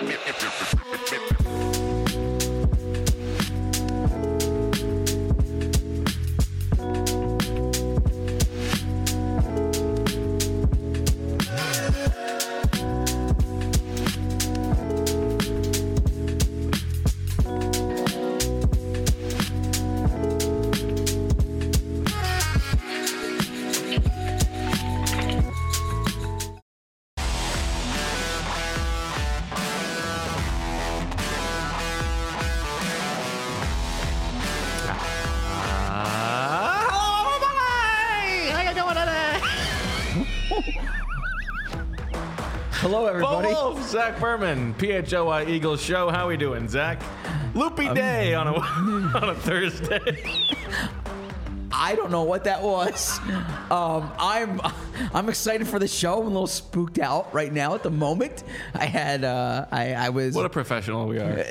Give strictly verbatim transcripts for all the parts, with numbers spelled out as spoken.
Hello, everybody. Bo Wolf, Zach Berman, P H O Y Eagles Show. How we doing, Zach? Loopy um, day on a on a Thursday. I don't know what that was. Um, I'm I'm excited for the show. I'm a little spooked out right now at the moment. I had uh, I I was what a professional we are.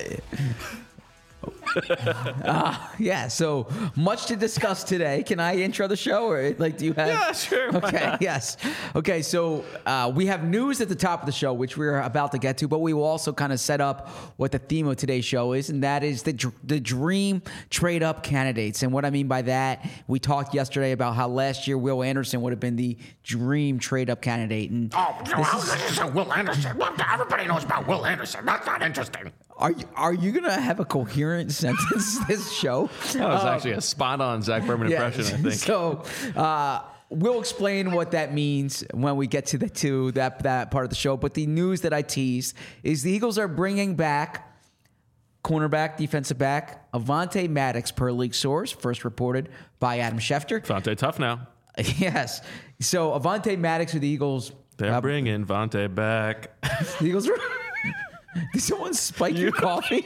uh, yeah, so much to discuss today. Can I intro the show, or like, do you have? Yeah, sure. Okay, yes. Okay, so uh, we have news at the top of the show, which we're about to get to, but we will also kind of set up what the theme of today's show is, and that is the the dream trade up candidates. And what I mean by that, we talked yesterday about how last year Will Anderson would have been the dream trade up candidate. And oh, this is Will Anderson. Everybody knows about Will Anderson. That's not interesting. Are you, are you going to have a coherent sentence this show? That was um, actually a spot-on Zach Berman yeah, impression, I think. So uh, we'll explain what that means when we get to the to that, that part of the show. But the news that I teased is the Eagles are bringing back cornerback, defensive back, Avonte Maddox, per league source, first reported by Adam Schefter. Avonte tough now. Yes. So Avonte Maddox with the Eagles. They're uh, bringing Avonte back. The Eagles are... Did someone spike your coffee?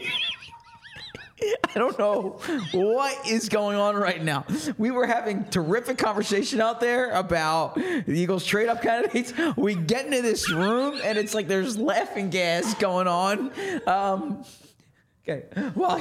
I don't know what is going on right now. We were having terrific conversation out there about the Eagles trade up candidates. We get into this room and it's like there's laughing gas going on. Um, okay, well,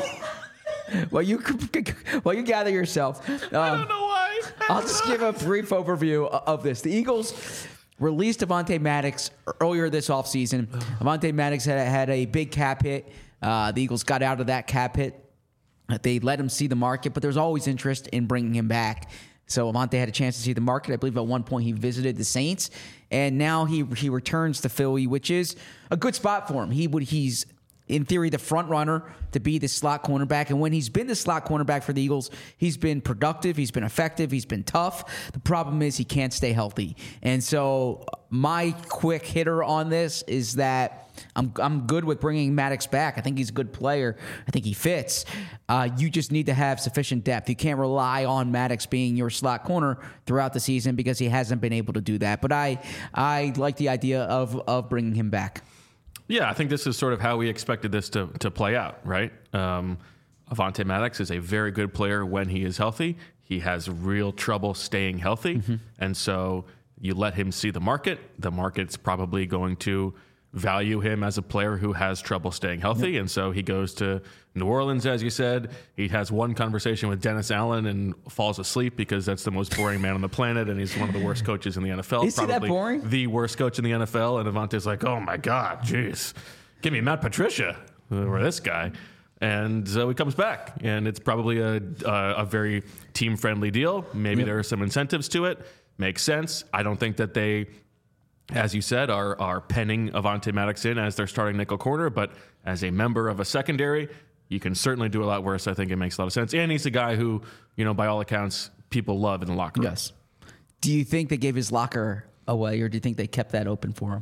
well you well you gather yourself. Um, I don't know why. I'll just give a brief overview of this. The Eagles released Avonte Maddox earlier this offseason. Avonte Maddox had, had a big cap hit. Uh, the Eagles got out of that cap hit. They let him see the market, but there's always interest in bringing him back. So Avonte had a chance to see the market. I believe at one point he visited the Saints, and now he he returns to Philly, which is a good spot for him. He would he's in theory the front runner to be the slot cornerback, and when he's been the slot cornerback for the Eagles, he's been productive, he's been effective, he's been tough. The problem is he can't stay healthy, and so my quick hitter on this is that I'm I'm good with bringing Maddox back. I think he's a good player. I think he fits. Uh, you just need to have sufficient depth. You can't rely on Maddox being your slot corner throughout the season because he hasn't been able to do that. But I I like the idea of of bringing him back. Yeah, I think this is sort of how we expected this to, to play out, right? Um, Avonte Maddox is a very good player when he is healthy. He has real trouble staying healthy. Mm-hmm. And so you let him see the market. The market's probably going to value him as a player who has trouble staying healthy. Yep. And so he goes to New Orleans, as you said. He has one conversation with Dennis Allen and falls asleep because that's the most boring man on the planet, and he's one of the worst coaches in the N F L. Is he that boring? The worst coach in the N F L. And Avonte's like, oh, my God, jeez. Give me Matt Patricia or this guy. And so he comes back, and it's probably a, a, a very team-friendly deal. Maybe yep. there are some incentives to it. Makes sense. I don't think that they... as you said, are are penning Avonte Maddox in as their starting nickel corner, but as a member of a secondary, you can certainly do a lot worse. I think it makes a lot of sense. And he's a guy who, you know, by all accounts, people love in the locker room. Yes. Do you think they gave his locker away, or do you think they kept that open for him?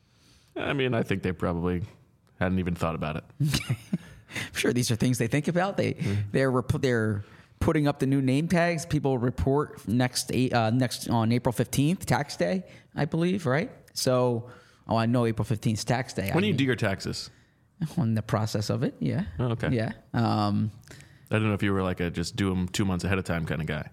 I mean, I think they probably hadn't even thought about it. I'm sure these are things they think about. They mm-hmm. they're they're putting up the new name tags. People report next uh, next on April fifteenth, tax day, I believe, right? So, oh, I know April fifteenth is tax day. When I do you mean, do your taxes? On the process of it, yeah. Oh, okay. Yeah. Um, I don't know if you were like a just do them two months ahead of time kind of guy.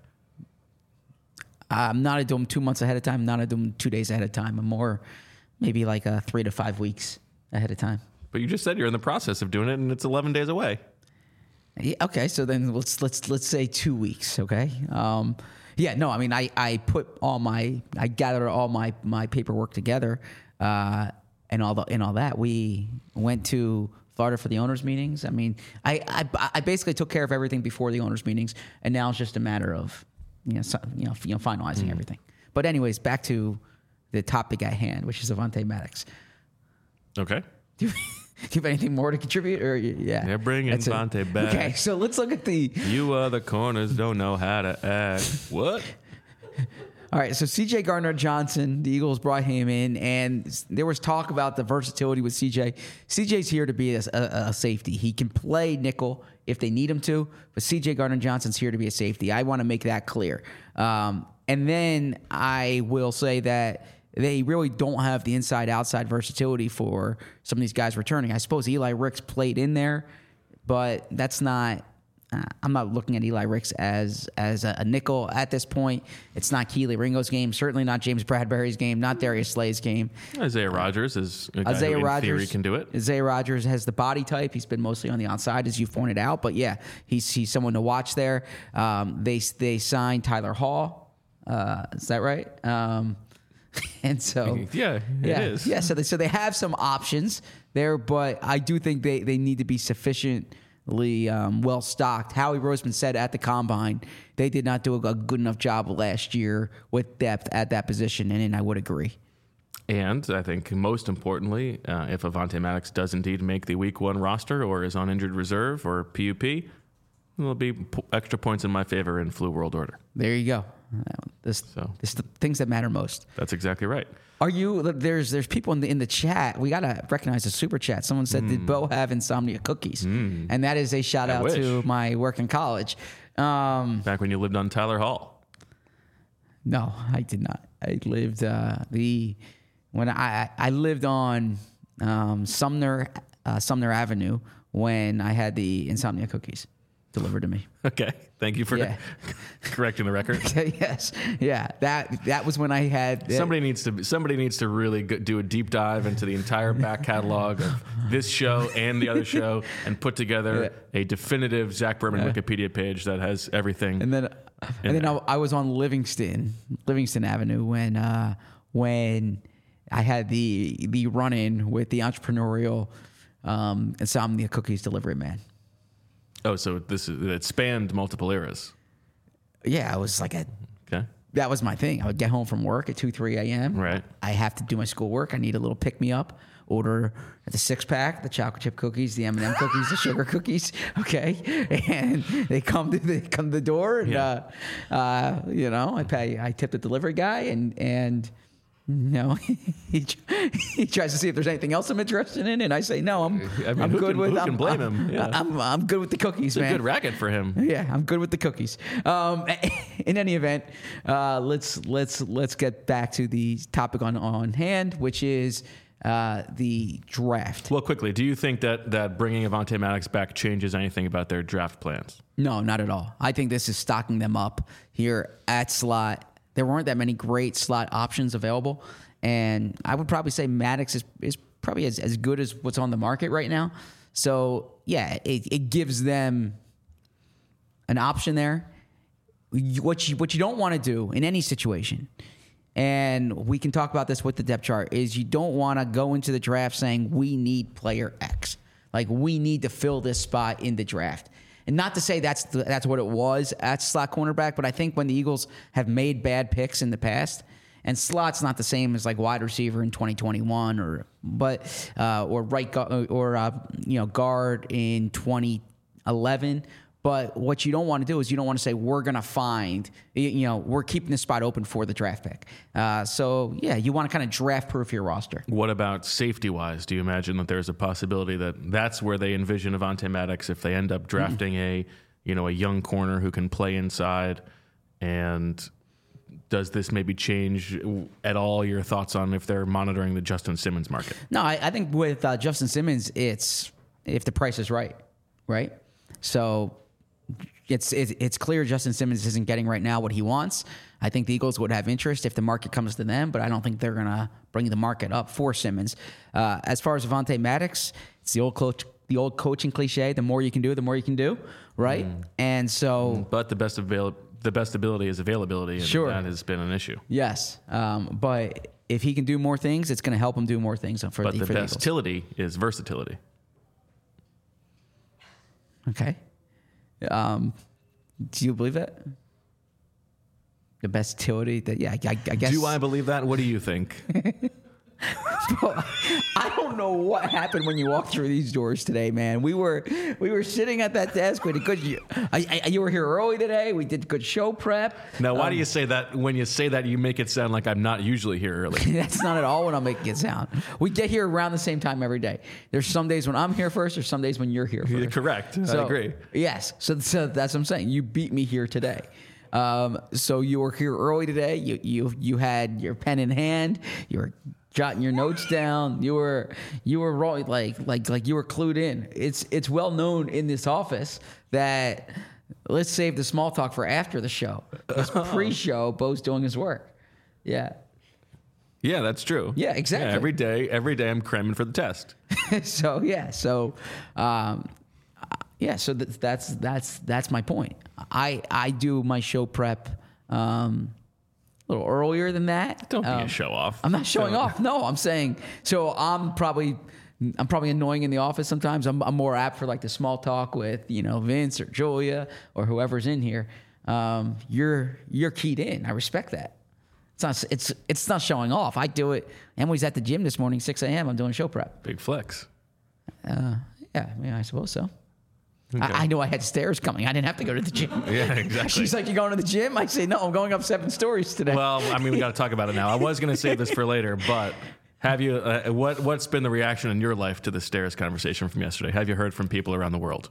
I'm not a do them two months ahead of time. I'm not a do them two days ahead of time. I'm more maybe like a three to five weeks ahead of time. But you just said you're in the process of doing it, and it's eleven days away. Yeah, okay, so then let's let's let's say two weeks. Okay. Um, yeah. No, I mean, I, I put all my I gathered all my my paperwork together, uh, and all the and all that. We went to Florida for the owners' meetings. I mean, I, I I basically took care of everything before the owners' meetings, and now it's just a matter of you know so, you know you know finalizing mm. everything. But anyways, back to the topic at hand, which is Avonte Maddox. Okay. Do you, do you have anything more to contribute? Or yeah, they're bringing Avonte back. Okay, so let's look at the. You other corners don't know how to act. What? All right, so C J Gardner-Johnson, the Eagles brought him in, and there was talk about the versatility with C J. C J's here to be a, a, a safety. He can play nickel if they need him to, but C J Gardner-Johnson's here to be a safety. I want to make that clear. Um, and then I will say that they really don't have the inside-outside versatility for some of these guys returning. I suppose Eli Ricks played in there, but that's not... Uh, I'm not looking at Eli Ricks as as a, a nickel at this point. It's not Keely Ringo's game. Certainly not James Bradbury's game. Not Darius Slay's game. Isaiah Rodgers is a guy Isaiah who in Rodgers, theory can do it. Isaiah Rodgers has the body type. He's been mostly on the outside, as you've pointed out. But yeah, he's he's someone to watch there. Um, they they signed Tyler Hall. Uh, is that right? Um, and so yeah, it yeah, is. Yeah, so they so they have some options there, but I do think they they need to be sufficient. Um, well stocked. Howie Roseman said at the combine they did not do a, a good enough job last year with depth at that position, and, and I would agree. And I think most importantly, uh, if Avonte Maddox does indeed make the Week One roster or is on injured reserve or P U P, there'll be p- extra points in my favor in Flu World Order. There you go. This, so this the things that matter most. That's exactly right. Are you? There's there's people in the in the chat. We gotta recognize the super chat. Someone said, mm. "Did Bo have insomnia cookies?" Mm. And that is a shout I out wish. to my work in college. Um, Back when you lived on Tyler Hall. No, I did not. I lived uh, the when I I lived on um, Sumner uh, Sumner Avenue when I had the insomnia cookies delivered to me. Okay, thank you for yeah. correcting the record. Yes, yeah, that that was when I had. Uh, somebody needs to somebody needs to really go, do a deep dive into the entire back catalog of this show and the other show, and put together yeah. a definitive Zach Berman yeah. Wikipedia page that has everything. And then, and then I, I was on Livingston Livingston Avenue when uh, when I had the the run in with the entrepreneurial um, insomnia cookies delivery man. Oh, so this is, it spanned multiple eras. Yeah, I was like a. Okay. That was my thing. I would get home from work at two, three a.m. Right. I have to do my schoolwork. I need a little pick me up. Order the six pack, the chocolate chip cookies, the M and M cookies, the sugar cookies. Okay, and they come to the come to the door, and yeah. uh, uh, you know, I pay. I tip the delivery guy, and and. No, he he tries to see if there's anything else I'm interested in, and I say no. I'm I mean, I'm good can, with. Who I'm, can blame I'm, him? Yeah. I'm I'm good with the cookies, it's man. A good racket for him. Yeah, I'm good with the cookies. Um, in any event, uh, let's let's let's get back to the topic on on hand, which is uh, the draft. Well, quickly, do you think that that bringing Avonte Maddox back changes anything about their draft plans? No, not at all. I think this is stocking them up here at slot. There weren't that many great slot options available, and I would probably say Maddox is, is probably as, as good as what's on the market right now. So, yeah, it, it gives them an option there. What you, what you don't want to do in any situation, and we can talk about this with the depth chart, is you don't want to go into the draft saying we need player X. Like, we need to fill this spot in the draft. And not to say that's the, that's what it was at slot cornerback, but I think when the Eagles have made bad picks in the past, and slot's not the same as like wide receiver in twenty twenty-one, or but uh, or right gu- or uh, you know guard in twenty eleven. But what you don't want to do is you don't want to say we're going to find, you know, we're keeping this spot open for the draft pick. Uh, so, yeah, you want to kind of draft-proof your roster. What about safety-wise? Do you imagine that there's a possibility that that's where they envision Avonte Maddox if they end up drafting mm-hmm. a, you know, a young corner who can play inside? And does this maybe change at all your thoughts on if they're monitoring the Justin Simmons market? No, I, I think with uh, Justin Simmons, it's if the price is right, right? So... It's, it's it's clear Justin Simmons isn't getting right now what he wants. I think the Eagles would have interest if the market comes to them, but I don't think they're going to bring the market up for Simmons. Uh, as far as Avonte Maddox, it's the old coach, the old coaching cliche: the more you can do, the more you can do, right? Mm. And so, but the best avail- the best ability is availability, and sure. that has been an issue. Yes, um, but if he can do more things, it's going to help him do more things for But the, the for the Eagles. versatility is versatility. Okay. Um, do you believe that? The best utility that, yeah, I, I guess. Do I believe that? What do you think? I don't know what happened when you walked through these doors today, man. We were we were sitting at that desk. We did good. You, I, I, you were here early today. We did good show prep. Now, why Um, do you say that? When you say that, you make it sound like I'm not usually here early. That's not at all what I'm making it sound. We get here around the same time every day. There's some days when I'm here first. There's some days when you're here You're first. correct. I So, agree. Yes. So, so that's what I'm saying. You beat me here today. Um, so you were here early today. You you you had your pen in hand. You were jotting your notes down. You were you were rolling like like like you were clued in. It's it's well known in this office that let's save the small talk for after the show. It's pre-show. Bo's doing his work. Yeah. Yeah, that's true. Yeah, exactly. Yeah, every day, every day I'm cramming for the test. so yeah, so um, yeah, so th- that's that's that's my point. I I do my show prep um, a little earlier than that. Don't be Um, a show off. I'm not showing Don't- off. No, I'm saying so. I'm probably I'm probably annoying in the office sometimes. I'm, I'm more apt for like the small talk with you know Vince or Julia or whoever's in here. Um, you're you're keyed in. I respect that. It's not it's it's not showing off. I do it. Emily's at the gym this morning, six a.m. I'm doing show prep. Big flex. Uh, yeah, yeah, I suppose so. Okay. I, I know I had stairs coming. I didn't have to go to the gym. Yeah, exactly. She's like, "You going to the gym?" I say, "No, I'm going up seven stories today." Well, I mean, we got to talk about it now. I was going to save this for later, but have you? Uh, what What's been the reaction in your life to the stairs conversation from yesterday? Have you heard from people around the world?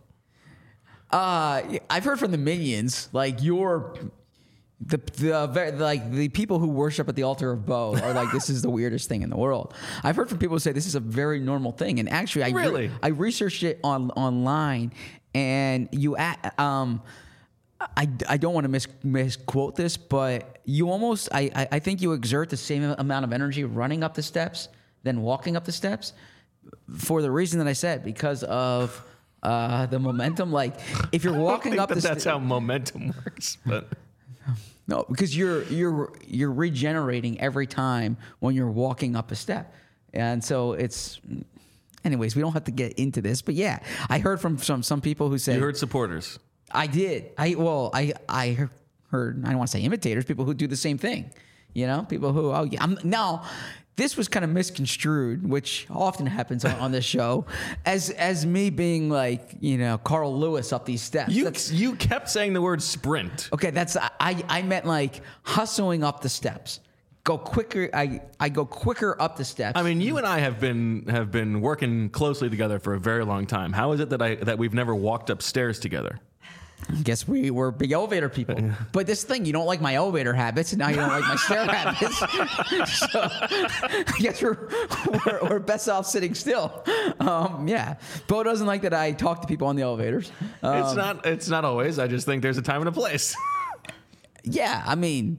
Uh, I've heard from the minions, like your, the the very, like the people who worship at the altar of Bo are like, this is the weirdest thing in the world. I've heard from people who say this is a very normal thing, and actually, I re- Really? I researched it on online, and you at um. I, I don't want to mis- misquote this, but you almost, I, I, I think you exert the same amount of energy running up the steps than walking up the steps for the reason that I said, because of uh, the momentum. Like, if you're I don't walking think up that the that's steps. how momentum works. But No, because you're you're you're regenerating every time when you're walking up a step, and so it's. Anyways, we don't have to get into this, but yeah, I heard from some some people who said you heard supporters. I did. I well, I I heard. I don't want to say imitators. People who do the same thing. You know, people who oh yeah. I'm, now, this was kind of misconstrued, which often happens on, on this show, as as me being like you know Carl Lewis up these steps. You That's- you kept saying the word sprint. okay, that's I I meant like hustling up the steps. Go quicker. I I go quicker up the steps. I mean, you and I have been have been working closely together for a very long time. How is it that I that we've never walked upstairs together? I guess we were big elevator people. But this thing, you don't like my elevator habits, and now you don't like my stair habits. So I guess we're, we're, we're best off sitting still. Um, yeah. Bo doesn't like that I talk to people on the elevators. Um, It's not it's not always. I just think there's a time and a place. yeah, I mean,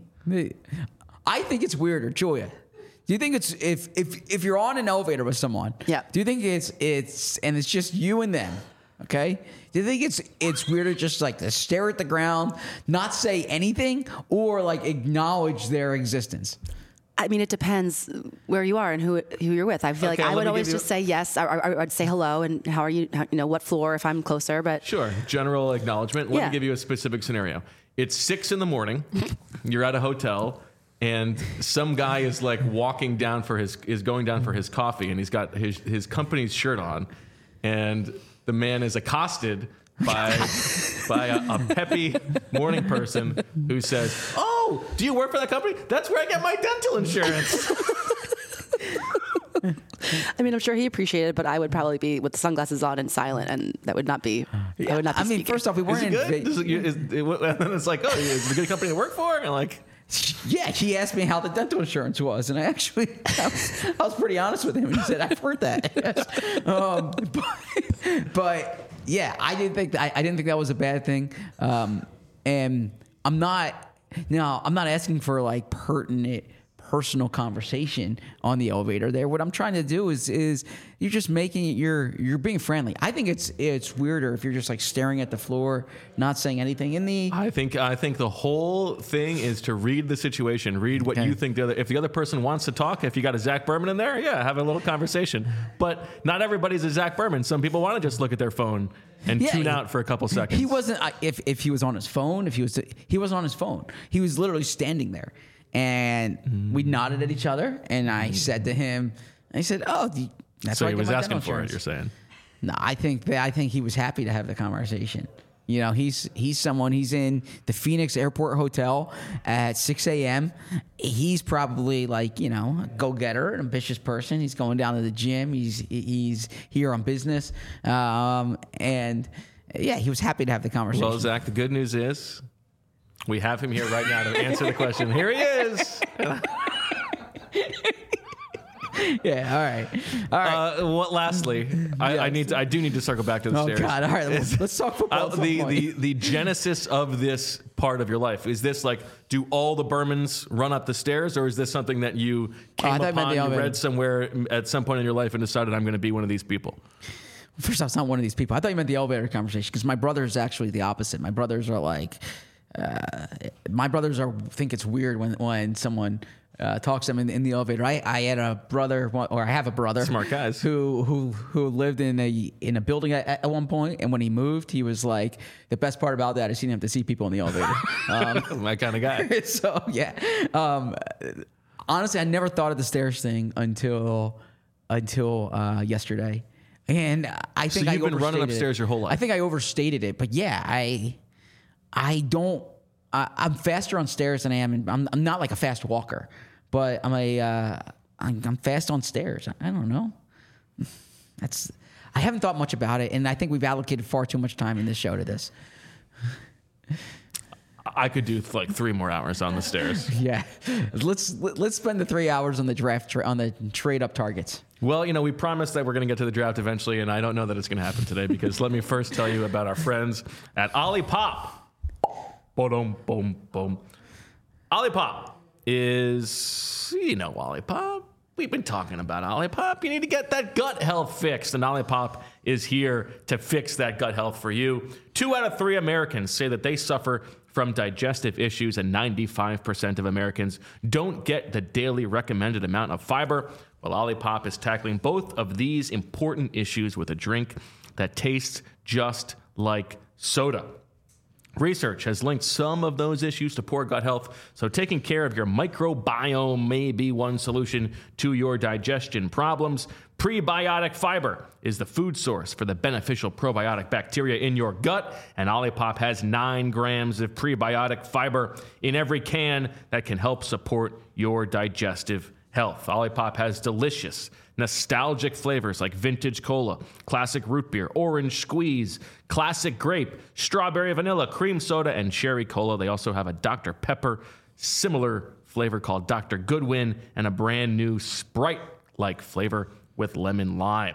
I think it's weirder. Julia, do you think it's if if if you're on an elevator with someone? Yeah. Do you think it's it's and it's just you and them? Okay. Do you think it's it's weirder just like to stare at the ground, not say anything, or like acknowledge their existence? I mean, it depends where you are and who who you're with. I feel Okay, like I let would me always give you- just say yes. I, I, I'd say hello and how are you? How, you know, what floor if I'm closer. But Sure, general acknowledgement. Let Yeah. me give you a specific scenario. It's six in the morning. You're at a hotel, and some guy is like walking down for his is going down for his coffee, and he's got his his company's shirt on, and the man is accosted by by a, a peppy morning person who says, "Oh, do you work for that company? That's where I get my dental insurance." I mean, I'm sure he appreciated it, but I would probably be with the sunglasses on and silent, and that would not be. I would not. Be I mean, speaking. first off, we Is weren't it in. good? Ve- Is it, is it, and then it's like, "Oh, is it a good company to work for?" And like. Yeah, he asked me how the dental insurance was, and I actually I was, I was pretty honest with him. And he said, "I've heard that." um, but, but yeah, I didn't think that, I, I didn't think that was a bad thing. Um, and I'm not now. I'm not asking for like pertinent personal conversation on the elevator there. What I'm trying to do is is you're just making it, you're you're being friendly. I think it's it's weirder if you're just like staring at the floor, not saying anything. In the I think I think the whole thing is to read the situation, read what Okay. you think the other. If the other person wants to talk, if you got a Zach Berman in there, yeah, have a little conversation. But not everybody's a Zach Berman. Some people want to just look at their phone and Yeah, tune he- out for a couple seconds. He wasn't. I- If if he was on his phone, if he was he was on his phone. He was literally standing there, and Mm. we nodded at each other. And I said to him, I said, "Oh, the, that's so why I he get was my asking dental for it. insurance." You're saying. No, I think that I think he was happy to have the conversation. You know, he's he's someone. He's in the Phoenix Airport Hotel at six a.m. He's probably like, you know, a go-getter, an ambitious person. He's going down to the gym. He's he's here on business, um, and yeah, he was happy to have the conversation. Well, Zach, the good news is we have him here right now to answer the question. Here he is. Yeah, all right, all right. Uh, what? Lastly, I, I need to, I do need to circle back to the Oh stairs. God! All right, let's, let's talk football. Uh, at some the, point. the the genesis of this part of your life, is this like, do all the Bermans run up the stairs, or is this something that you Oh, I came thought you meant upon, the you elevator. read somewhere at some point in your life and decided I'm going to be one of these people? First off, it's not one of these people. I thought you meant the elevator conversation because my brother's actually the opposite. My brothers are like, uh, my brothers are think it's weird when when someone uh, talks to them in, in the elevator. I, I had a brother, or I have a brother, Smart guys. who who who lived in a in a building at, at one point, and when he moved, he was like, the best part about that is he didn't have to see people in the elevator. Um, My kind of guy. so yeah, um, honestly, I never thought of the stairs thing until until uh, yesterday, and I think So I you've been running overstated upstairs it. your whole life. I think I overstated it, but yeah, I I don't. I, I'm faster on stairs than I am. In, I'm I'm not like a fast walker, but I'm a uh, I'm, I'm fast on stairs. I, I don't know. That's I haven't thought much about it, and I think we've allocated far too much time in this show to this. I could do like three more hours on the stairs. Yeah, let's let's spend the three hours on the draft tra- on the trade up targets. Well, you know, we promised that we're going to get to the draft eventually, and I don't know that it's going to happen today because let me first tell you about our friends at Olipop. Boom, boom, boom. Olipop is, you know, Olipop. We've been talking about Olipop. You need to get that gut health fixed, and Olipop is here to fix that gut health for you. Two out of three Americans say that they suffer from digestive issues, and ninety-five percent of Americans don't get the daily recommended amount of fiber. Well, Olipop is tackling both of these important issues with a drink that tastes just like soda. Research has linked some of those issues to poor gut health, so taking care of your microbiome may be one solution to your digestion problems. Prebiotic fiber is the food source for the beneficial probiotic bacteria in your gut, and Olipop has nine grams of prebiotic fiber in every can that can help support your digestive health. Olipop has delicious, nostalgic flavors like vintage cola, classic root beer, orange squeeze, classic grape, strawberry vanilla, cream soda, and cherry cola. They also have a Doctor Pepper similar flavor called Doctor Goodwin, and a brand new Sprite-like flavor with lemon lime.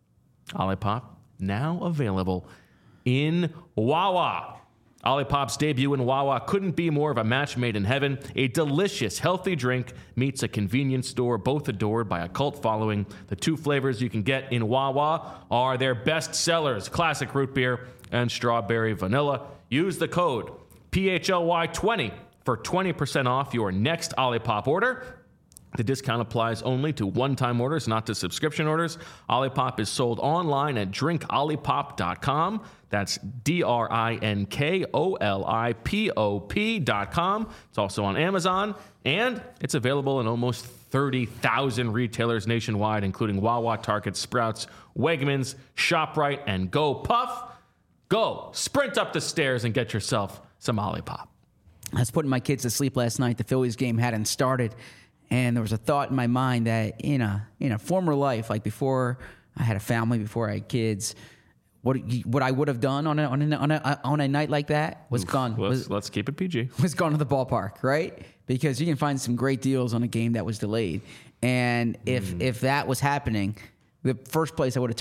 Olipop now available in Wawa. Olipop's debut in Wawa couldn't be more of a match made in heaven. A delicious, healthy drink meets a convenience store, both adored by a cult following. The two flavors you can get in Wawa are their best sellers, classic root beer and strawberry vanilla. Use the code P H L Y twenty for twenty percent off your next Olipop order. The discount applies only to one-time orders, not to subscription orders. Olipop is sold online at drink olipop dot com. That's D R I N K O L I P O P dot com. It's also on Amazon, and it's available in almost thirty thousand retailers nationwide, including Wawa, Target, Sprouts, Wegmans, ShopRite, and Go Puff. Go, sprint up the stairs and get yourself some Olipop. I was putting my kids to sleep last night. The Phillies game hadn't started, and there was a thought in my mind that in a in a former life, like before I had a family, before I had kids, what what I would have done on a on a on a, on a night like that was gone. Let's, Was, let's keep it P G. was gone to the ballpark, right? Because you can find some great deals on a game that was delayed, and if if that was happening, the first place I would have turned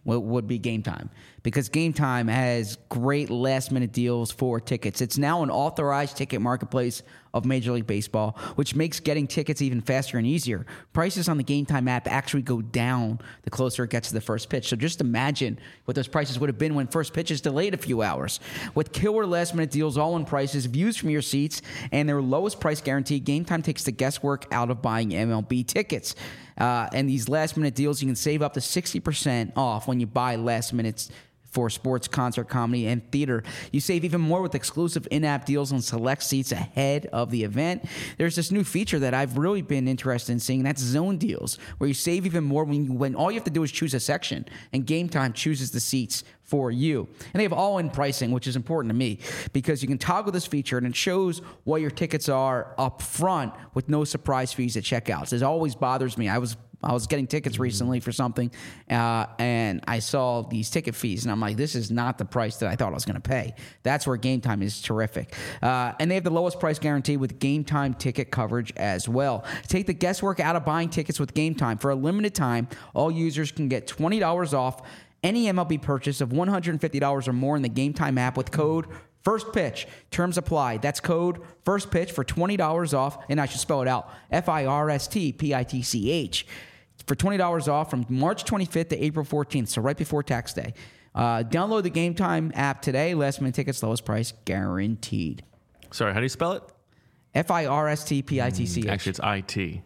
would, would be Game Time, because Game Time has great last minute deals for tickets. It's now an authorized ticket marketplace of Major League Baseball, which makes getting tickets even faster and easier. Prices on the Game Time app actually go down the closer it gets to the first pitch. So just imagine what those prices would have been when first pitch is delayed a few hours. With killer last minute deals, all-in prices, views from your seats, and their lowest price guarantee, Game Time takes the guesswork out of buying M L B tickets. Uh, and these last minute deals, you can save up to sixty percent off when you buy last minutes for sports, concert, comedy, and theater. You save even more with exclusive in-app deals on select seats ahead of the event. There's this new feature that I've really been interested in seeing, and that's zone deals, where you save even more when you, when all you have to do is choose a section, and Game Time chooses the seats for you. And they have all-in pricing, which is important to me, because you can toggle this feature, and it shows what your tickets are up front with no surprise fees at checkouts. It always bothers me. I was I was getting tickets recently for something, uh, and I saw these ticket fees, and I'm like, this is not the price that I thought I was going to pay. That's where Game Time is terrific. Uh, and they have the lowest price guarantee with Game Time ticket coverage as well. Take the guesswork out of buying tickets with Game Time. For a limited time, all users can get twenty dollars off any M L B purchase of one hundred fifty dollars or more in the Game Time app with code First Pitch. Terms apply. That's code First Pitch for twenty dollars off, and I should spell it out, F I R S T P I T C H. For twenty dollars off from March twenty-fifth to April fourteenth, so right before tax day. Uh, download the Game Time app today. Last minute tickets, lowest price guaranteed. Sorry, how do you spell it? F I R S T P I T C H. Actually, it's I T.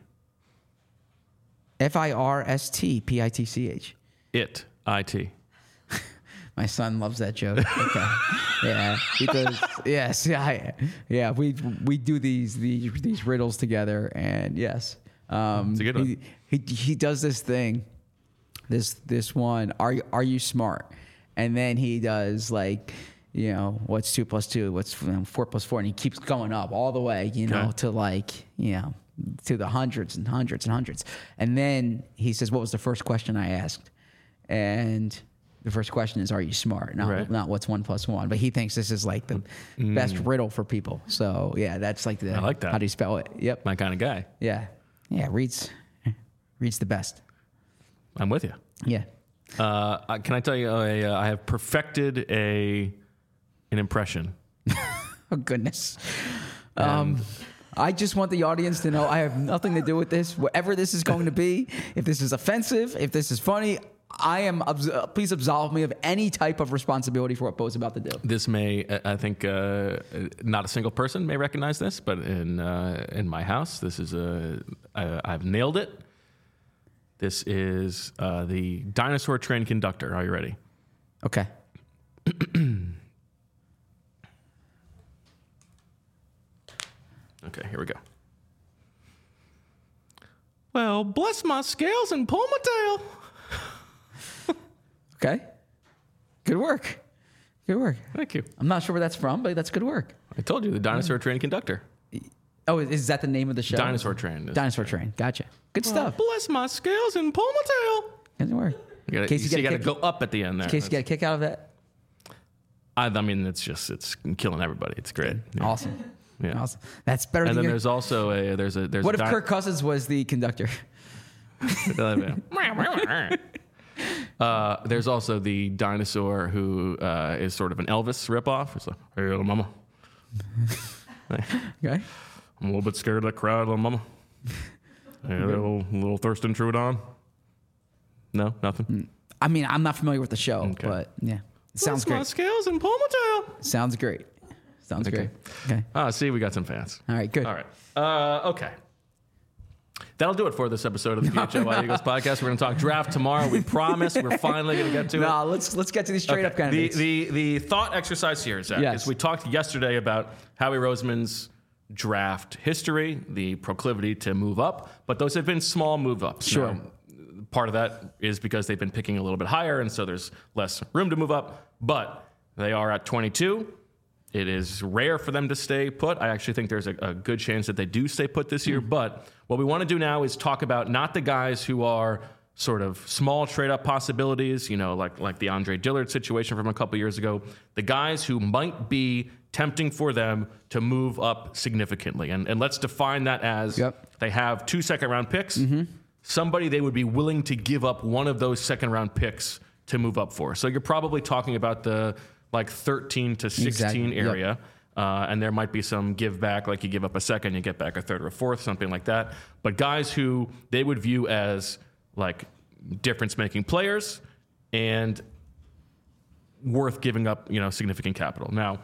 F I R S T P I T C H. It. I T. My son loves that joke. Okay. Yeah, because yes, yeah, yeah. We we do these these these riddles together, and yes, um, it's a good one. He, he he does this thing, this this one. Are you are you smart? And then he does like, you know, what's two plus two? What's you know, four plus four? And he keeps going up all the way, you know, Okay. to like you know to the hundreds and hundreds and hundreds. And then he says, "What was the first question I asked?" And the first question is, "Are you smart?" Not, Right. not what's one plus one. But he thinks this is like the Mm. best riddle for people. So yeah, that's like the. I like that. How do you spell it? Yep. My kind of guy. Yeah. Yeah. Reads. Reads the best. I'm with you. Yeah. Uh, I- can I tell you, I, uh, I have perfected a an impression. Oh goodness. Um, I just want the audience to know I have nothing to do with this. Whatever this is going to be, if this is offensive, if this is funny, I am. abs- uh, Please absolve me of any type of responsibility for what Bo's about to do. This may, uh, I think, uh, not a single person may recognize this, but in uh, in my house, this is a. I, I've nailed it. This is uh, the dinosaur train conductor. Are you ready? Okay. Okay, here we go. Well, bless my scales and pull my tail. Okay. Good work. Good work. Thank you. I'm not sure where that's from, but that's good work. I told you the dinosaur train conductor. Oh, is that the name of the show? Dinosaur train. is- Dinosaur Train. Gotcha. Good Well, stuff. bless my scales and pull my tail. Good work. You gotta, In case you you see, you get a gotta kick- go up at the end there. In case you get a kick out of that. I, I mean, it's just it's killing everybody. It's great. Yeah. Awesome. Yeah. Awesome. That's better And than then your... there's also a there's a there's What a if di- Kirk Cousins was the conductor? uh, there's also the dinosaur who uh, is sort of an Elvis ripoff. It's like, hey, little mama. Okay. I'm a little bit scared of that crowd, little mama. Hey, little little Thurston Trudon. No, nothing. I mean, I'm not familiar with the show, Okay. but yeah. It sounds Bless my great. scales and pull my tail. Sounds great. Sounds Okay. great. Okay. Ah, see, we got some fans. All right, good. All right. Uh, okay. That'll do it for this episode of the P H L Y Eagles podcast. We're going to talk draft tomorrow. We promise we're finally going to get to it. No, let's let's get to these straight up Okay. candidates. The, the, the thought exercise here, Zach, Yes. is we talked yesterday about Howie Roseman's draft history, the proclivity to move up, but those have been small move ups. Sure. Now, part of that is because they've been picking a little bit higher, and so there's less room to move up, but they are at twenty-two. It is rare for them to stay put. I actually think there's a, a good chance that they do stay put this year. But what we want to do now is talk about not the guys who are sort of small trade-up possibilities, you know, like like the Andre Dillard situation from a couple years ago. The guys who might be tempting for them to move up significantly. And, and let's define that as Yep. they have two second-round picks. Somebody they would be willing to give up one of those second-round picks to move up for. So you're probably talking about the like thirteen to sixteen Exactly. Yep. area. Uh, and there might be some give back, like you give up a second, you get back a third or a fourth, something like that. But guys who they would view as like difference-making players and worth giving up, you know, significant capital. Now,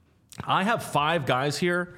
I have five guys here,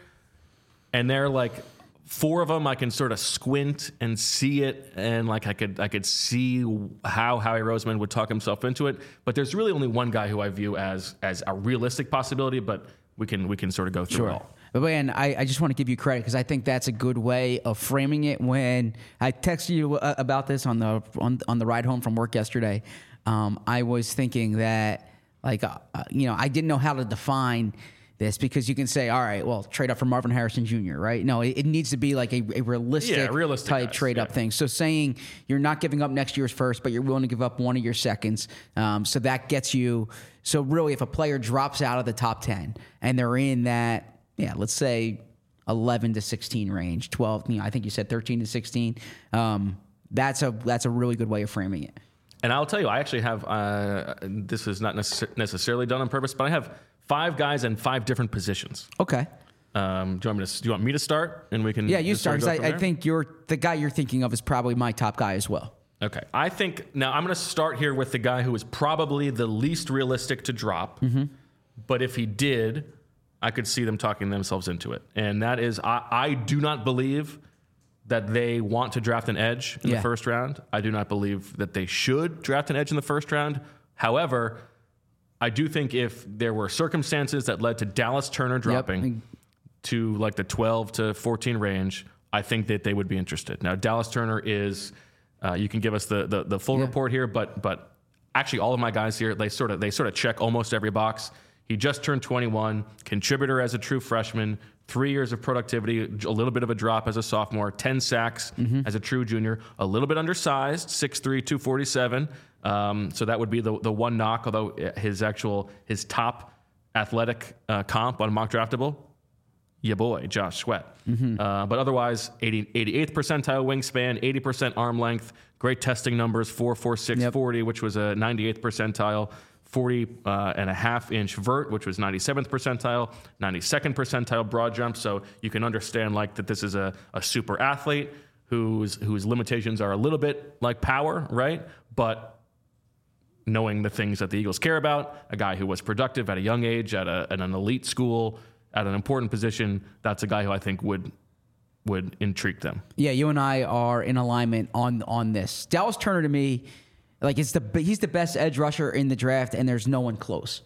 and they're like four of them I can sort of squint and see it, and like I could I could see how Howie Roseman would talk himself into it. But there's really only one guy who I view as as a realistic possibility, but we can we can sort of go through it all. But man, I, I just want to give you credit because I think that's a good way of framing it. When I texted you uh, about this on the on, on the ride home from work yesterday, um, I was thinking that like uh, you know I didn't know how to define this because you can say, all right, well, trade up for Marvin Harrison Junior, right? No, it, it needs to be like a, a realistic, Yeah, realistic type guys, trade up yeah. thing. So saying you're not giving up next year's first, but you're willing to give up one of your seconds. Um, so that gets you. So really, if a player drops out of the top ten and they're in that, yeah, let's say eleven to sixteen range, twelve, you know, I think you said thirteen to sixteen. Um, that's a that's a really good way of framing it. And I'll tell you, I actually have, uh, this is not necess- necessarily done on purpose, but I have five guys in five different positions. Okay. Um, do, you want me to, do you want me to start? And we can Yeah, you just start. sort 'Cause of go I, from I there? think you're the guy you're thinking of is probably my top guy as well. Okay. I think, now I'm going to start here with the guy who is probably the least realistic to drop. Mm-hmm. But if he did, I could see them talking themselves into it. And that is, I, I do not believe that they want to draft an edge in Yeah. the first round. I do not believe that they should draft an edge in the first round. However, I do think if there were circumstances that led to Dallas Turner dropping to like the twelve to fourteen range, I think that they would be interested. Now, Dallas Turner is, uh, you can give us the the, the full Yeah. report here, but but actually all of my guys here, they sort of they sort of check almost every box. He just turned twenty-one, contributor as a true freshman, three years of productivity, a little bit of a drop as a sophomore, ten sacks Mm-hmm. as a true junior, a little bit undersized, six three, two forty-seven. Um, so that would be the the one knock, although his actual, his top athletic uh, comp on Mock Draftable, ya boy, Josh Sweat. Mm-hmm. Uh, but otherwise, eighty, eighty-eighth percentile wingspan, eighty percent arm length, great testing numbers, four four six Yep. forty, which was a ninety-eighth percentile, forty uh, and a half inch vert, which was ninety-seventh percentile, ninety-second percentile broad jump. So you can understand like that this is a, a super athlete whose whose limitations are a little bit like power, right? But knowing the things that the Eagles care about, a guy who was productive at a young age, at, a, at an elite school, at an important position, that's a guy who I think would would intrigue them. Yeah, you and I are in alignment on on this. Dallas Turner to me, like it's the he's the best edge rusher in the draft, and there's no one close.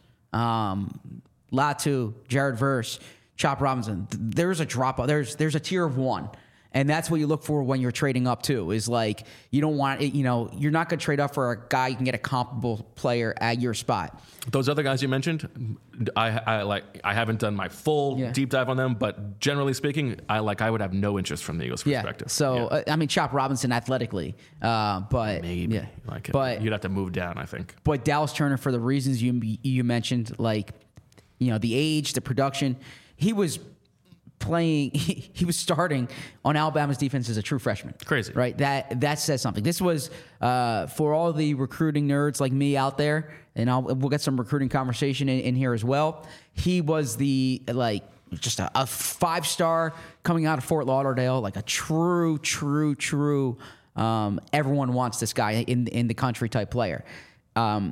Um, Latu, Jared Verse, Chop Robinson. th- There's a drop. There's there's a tier of one. And that's what you look for when you're trading up too. Is like you don't want it, you know you're not going to trade up for a guy you can get a comparable player at your spot. Those other guys you mentioned, I, I like. I haven't done my full Yeah. deep dive on them, but generally speaking, I like. I would have no interest from the Eagles' Yeah. perspective. So Yeah. uh, I mean, Chop Robinson athletically, uh, but maybe, yeah. like, but you'd have to move down. I think. But Dallas Turner, for the reasons you you mentioned, like you know the age, the production, he was playing. He, he was starting on Alabama's defense as a true freshman. Crazy, right? That that says something. This was uh, for all the recruiting nerds like me out there, and I'll, we'll get some recruiting conversation in, in here as well. He was the like. Just a, a five star coming out of Fort Lauderdale, like a true, true, true. Um, everyone wants this guy in in the country type player. Um,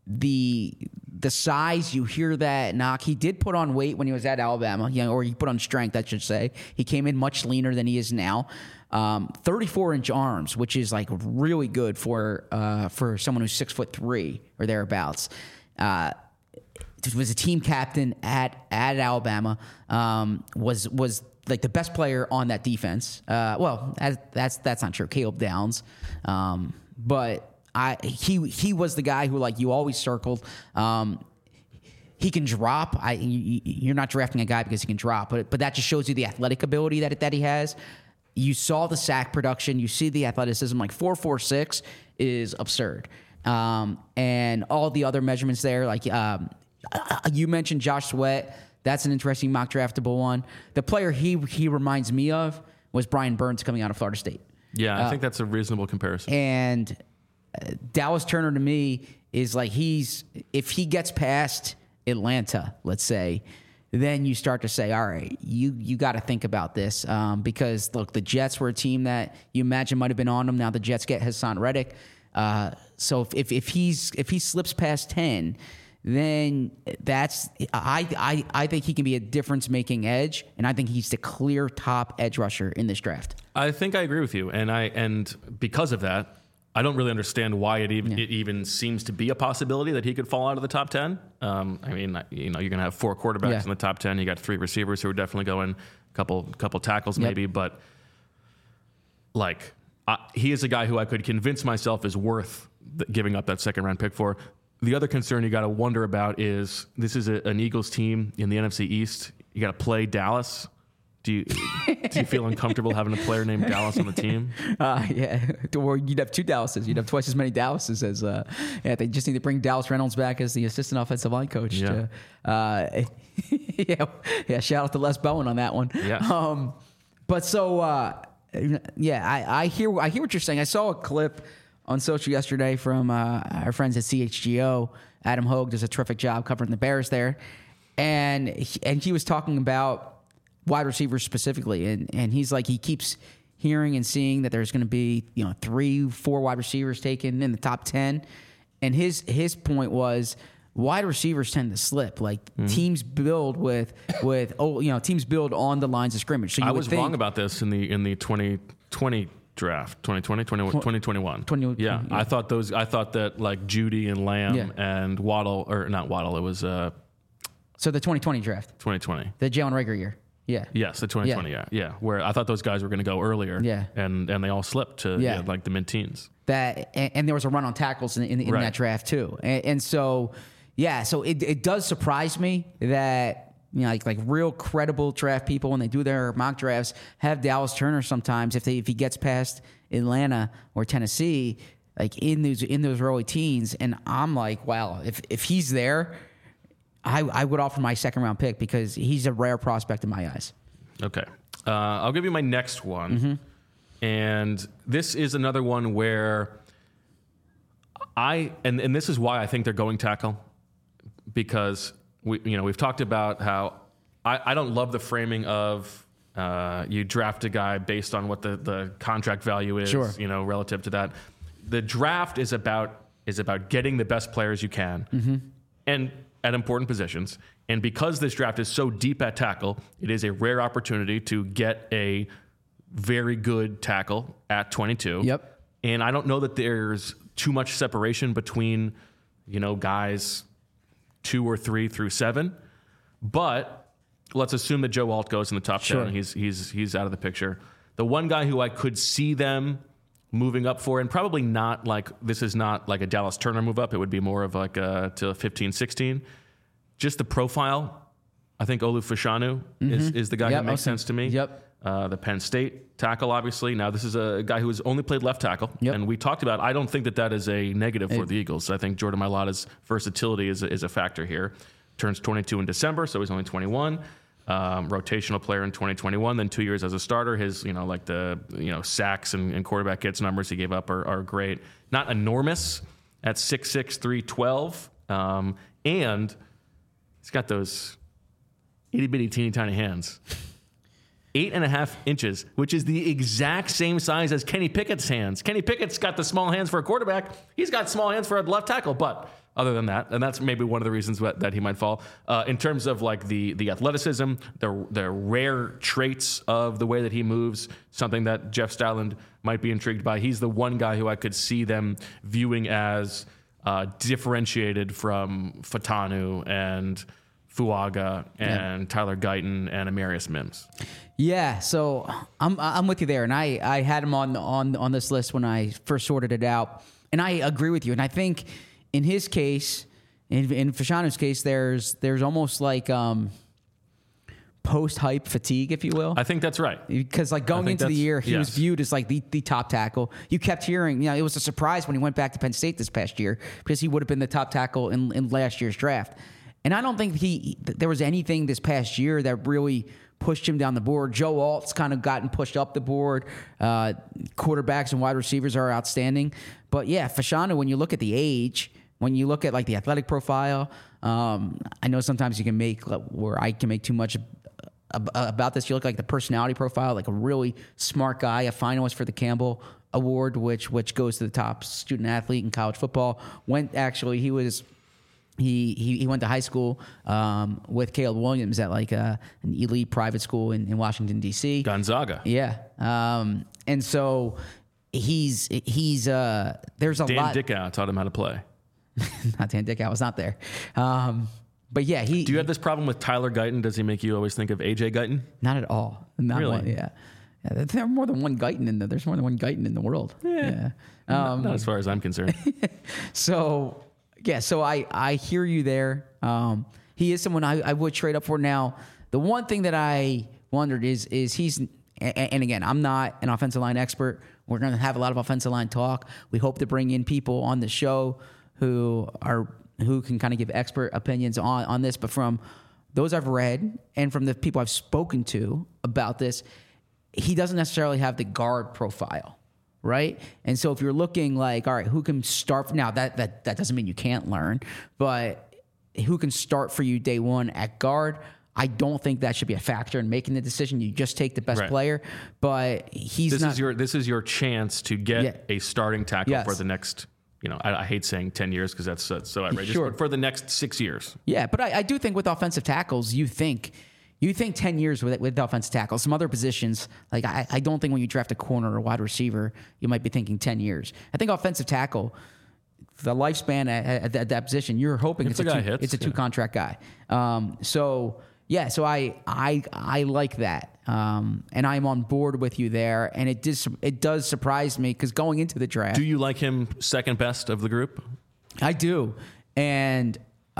the the size, you hear that knock. He did put on weight when he was at Alabama, you know, or he put on strength, I should say. He came in much leaner than he is now. Um, thirty-four inch arms, which is like really good for uh, for someone who's six foot three or thereabouts. Uh, was a team captain at at Alabama. Um, was was like the best player on that defense. Uh, well, as, that's that's not true. Caleb Downs, um, but I he he was the guy who like you always circled. Um, he can drop. I you, you're not drafting a guy because he can drop, but but that just shows you the athletic ability that that he has. You saw the sack production. You see the athleticism. Like four four six is absurd, um, and all the other measurements there, like. Um, You mentioned Josh Sweat. That's an interesting mock draftable one. The player he he reminds me of was Brian Burns coming out of Florida State. Yeah, I Uh, think that's a reasonable comparison. And uh, Dallas Turner to me is like he's if he gets past Atlanta, let's say, then you start to say, all right, you you got to think about this um, because look, the Jets were a team that you imagine might have been on them. Now the Jets get Hassan Reddick, uh, so if, if if he's if he slips past ten, then that's I I I think he can be a difference making edge, and I think he's the clear top edge rusher in this draft. I think I agree with you, and I and because of that, I don't really understand why it even yeah. it even seems to be a possibility that he could fall out of the top ten. Um, I mean, you know, you're gonna have four quarterbacks yeah. in the top ten. You got three receivers who are definitely going, a couple couple tackles yep. maybe, but like uh, he is a guy who I could convince myself is worth th- giving up that second round pick for. The other concern you got to wonder about is this is a, an Eagles team in the N F C East. You got to play Dallas. Do you do you feel uncomfortable having a player named Dallas on the team? Uh, yeah, or you'd have two Dallases. You'd have twice as many Dallases as. Uh, yeah, they just need to bring Dallas Reynolds back as the assistant offensive line coach. Yeah, to, uh, yeah, yeah. Shout out to Les Bowen on that one. Yeah. Um, but so uh, yeah, I, I hear I hear what you're saying. I saw a clip on social yesterday from uh, our friends at C H G O. Adam Hogue does a terrific job covering the Bears there, and he, and he was talking about wide receivers specifically, and and he's like he keeps hearing and seeing that there's going to be you know three, four wide receivers taken in the top ten, and his his point was wide receivers tend to slip. Like mm-hmm. teams build with with oh you know teams build on the lines of scrimmage. So you I would was think, wrong about this in the in the twenty twenty draft, twenty twenty, twenty twenty-one. twenty, yeah, yeah, I thought those. I thought that like Judy and Lamb yeah. and Waddle, or not Waddle. It was uh, so the twenty twenty draft, twenty twenty, the Jalen Reagor year. Yeah. Yes, the twenty twenty. Yeah. yeah, yeah. Where I thought those guys were going to go earlier. Yeah. And and they all slipped to yeah. yeah, like the mid-teens. That and, and there was a run on tackles in, in, in right. that draft too, and, and so yeah, so it it does surprise me that you know like like real credible draft people when they do their mock drafts have Dallas Turner sometimes if they if he gets past Atlanta or Tennessee like in those in those early teens, and I'm like wow if if he's there. I, I would offer my second round pick because he's a rare prospect in my eyes. Okay. Uh, I'll give you my next one. Mm-hmm. And this is another one where I, and, and this is why I think they're going tackle, because we, you know, we've talked about how I, I don't love the framing of uh, you draft a guy based on what the, the contract value is, sure. you know, relative to that. The draft is about, is about getting the best players you can. Mm-hmm. And at important positions. And because this draft is so deep at tackle, it is a rare opportunity to get a very good tackle at twenty-two. Yep. And I don't know that there's too much separation between, you know, guys two or three through seven. But let's assume that Joe Alt goes in the top sure. ten. He's he's he's out of the picture. The one guy who I could see them moving up for, and probably not like, this is not like a Dallas Turner move up. It would be more of like a, to fifteen, sixteen. Just the profile, I think Olu Fashanu mm-hmm. is, is the guy yep, who makes okay. sense to me. Yep. Uh, the Penn State tackle, obviously. Now, this is a guy who has only played left tackle. Yep. And we talked about, I don't think that that is a negative for it, the Eagles. I think Jordan Mailata's versatility is a, is a factor here. Turns twenty-two in December, so he's only twenty-one. Um, rotational player in twenty twenty-one, then two years as a starter. His, you know, like the, you know, sacks and, and quarterback hits numbers he gave up are, are great. Not enormous at six six, three twelve. Um, and he's got those itty bitty teeny tiny hands. Eight and a half inches, which is the exact same size as Kenny Pickett's hands. Kenny Pickett's got the small hands for a quarterback. He's got small hands for a left tackle, but other than that, and that's maybe one of the reasons that, that he might fall. Uh, in terms of like the the athleticism, the the rare traits of the way that he moves, something that Jeff Styland might be intrigued by. He's the one guy who I could see them viewing as uh, differentiated from Fatanu and Fuaga and yeah. Tyler Guyton and Amarius Mims. Yeah, so I'm I'm with you there, and I, I had him on on on this list when I first sorted it out, and I agree with you, and I think. In his case, in, in Fashanu's case, there's there's almost like um, post-hype fatigue, if you will. I think that's right. Because like going into the year, he yes. was viewed as like the, the top tackle. You kept hearing, you know, it was a surprise when he went back to Penn State this past year because he would have been the top tackle in, in last year's draft. And I don't think he there was anything this past year that really pushed him down the board. Joe Alt's kind of gotten pushed up the board. Uh, quarterbacks and wide receivers are outstanding. But yeah, Fashanu, when you look at the age, when you look at like the athletic profile, um, I know sometimes you can make where I can make too much about this. You look like the personality profile, like a really smart guy, a finalist for the Campbell Award, which which goes to the top student athlete in college football. Went actually, he was he he, he went to high school um, with Caleb Williams at like a, an elite private school in, in Washington D C. Gonzaga. Yeah, um, and so he's he's uh, there's a Dan lot. Dickow taught him how to play. Not Dan Dickow was not there. Um, But yeah, he. Do you have this problem with Tyler Guyton? Does he make you always think of A J Guyton? Not at all. Not Really? One, yeah. yeah. There's more than one Guyton in the. There's more than one Guyton in the world. Yeah. Not, Um, not as far as I'm concerned. so yeah. So I I hear you there. Um, he is someone I, I would trade up for. Now, the one thing that I wondered is is he's and, and again, I'm not an offensive line expert. We're going to have a lot of offensive line talk. We hope to bring in people on the show who are. who can kind of give expert opinions on, on this, but from those I've read and from the people I've spoken to about this, he doesn't necessarily have the guard profile, right? And so if you're looking like, all right, who can start now? That that that doesn't mean you can't learn, but who can start for you day one at guard? I don't think that should be a factor in making the decision. You just take the best Right. player, but he's This not. is your this is your chance to get Yeah. a starting tackle Yes. for the next. You know, I, I hate saying ten years because that's, that's so outrageous. Sure. But for the next six years, Yeah, but I, I do think with offensive tackles, you think you think ten years with with offensive tackles. Some other positions, like I, I don't think when you draft a corner or wide receiver, you might be thinking ten years. I think offensive tackle, the lifespan at, at, at that position, you're hoping If it's a, the guy two, hits, it's a two yeah. contract guy. Um, so yeah, so I I I like that, um, and I'm on board with you there. And it does it does surprise me because going into the draft, do you like him second best of the group? I do. And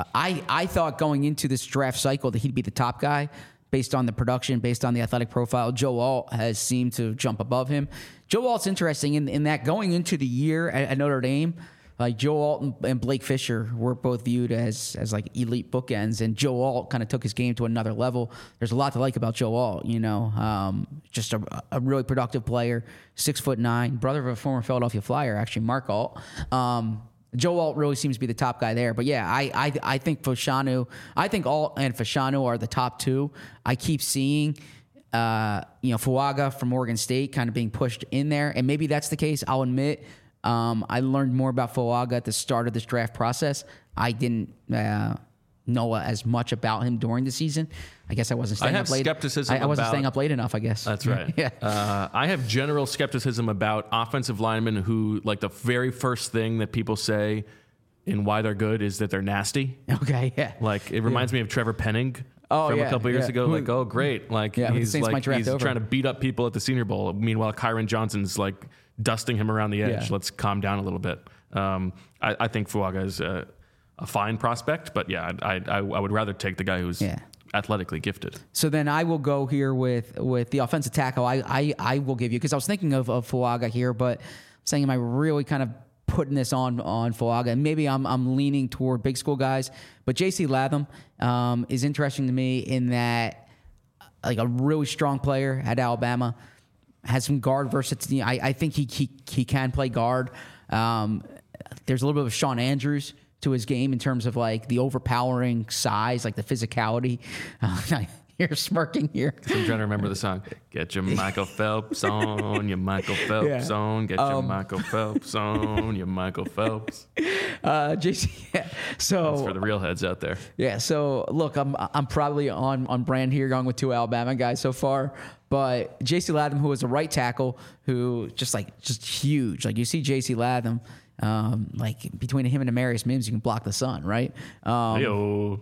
I I thought going into this draft cycle that he'd be the top guy based on the production, based on the athletic profile. Joe Alt has seemed to jump above him. Joe Alt's interesting in, in that going into the year at, at Notre Dame, like Joe Alt and, and Blake Fisher were both viewed as as like elite bookends, and Joe Alt kind of took his game to another level. There's a lot to like about Joe Alt, you know, um, just a, a really productive player, six foot nine, brother of a former Philadelphia Flyer, actually, Mark Alt. Um, Joe Alt really seems to be the top guy there. But yeah, I I, I think Fashanu, I think Alt and Fashanu are the top two. I keep seeing, uh, you know, Fuaga from Oregon State kind of being pushed in there. And maybe that's the case. I'll admit, um, I learned more about Fuaga at the start of this draft process. I didn't uh, know as much about him during the season. I guess I wasn't staying I have up late. skepticism I, I wasn't about- staying up late enough, I guess. That's right. yeah. Uh, I have general skepticism about offensive linemen who, like, the very first thing that people say in why they're good is that they're nasty. Okay, yeah. Like, it reminds me of Trevor Penning Oh, from yeah, a couple years yeah. ago. Who- Like, oh, great. Like, Yeah, who the he's Saints might like draft he's over. trying to beat up people at the Senior Bowl. Meanwhile, Kyron Johnson's like dusting him around the edge. Yeah. Let's calm down a little bit. Um, I, I think Fuaga is a, a fine prospect, but yeah, I, I, I would rather take the guy who's Yeah. athletically gifted. So then I will go here with with the offensive tackle. I I, I will give you, because I was thinking of, of Fuaga here, but I'm saying, am I really kind of putting this on on Fuaga? And maybe I'm I'm leaning toward big school guys. But J C Latham um, is interesting to me in that, like, a really strong player at Alabama, has some guard versatility. I, I think he, he he can play guard. Um, there's a little bit of Sean Andrews to his game in terms of like the overpowering size, like the physicality. Uh, you're smirking here. I'm trying to remember the song. Get your Michael Phelps on, your Michael Phelps Yeah. on. Get your Um, Michael Phelps on, your Michael Phelps. Uh, J C, yeah. So That's for the real heads out there. yeah, so look, I'm I'm probably on, on brand here, going with two Alabama guys so far. But J C Latham, who was a right tackle, who just like just huge. Like, you see J C Latham, um, like between him and Amarius Mims, you can block the sun, right? Um, Yo.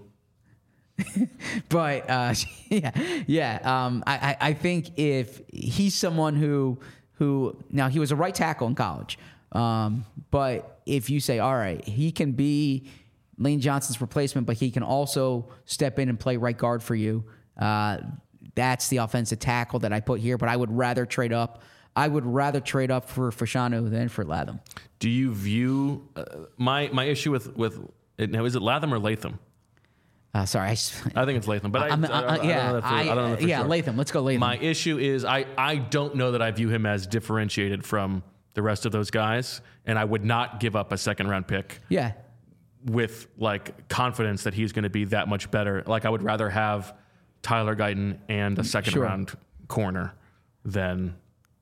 But uh, yeah, yeah. Um, I, I I think if he's someone who who now he was a right tackle in college, um, but if you say, all right, he can be Lane Johnson's replacement, but he can also step in and play right guard for you. Uh, that's the offensive tackle that I put here. But I would rather trade up. I would rather trade up for Fashanu than for Latham. Do you view uh, my my issue with with now? Is it Latham or Latham? Uh, sorry, I, s- I think it's Latham, but I, I'm- I, I, uh, I don't yeah, know that for, I- I don't know that for yeah, sure. Latham. Let's go Latham. My issue is I, I don't know that I view him as differentiated from the rest of those guys, and I would not give up a second round pick yeah. with like confidence that he's going to be that much better. Like I would rather have Tyler Guyton and a second Sure. round corner than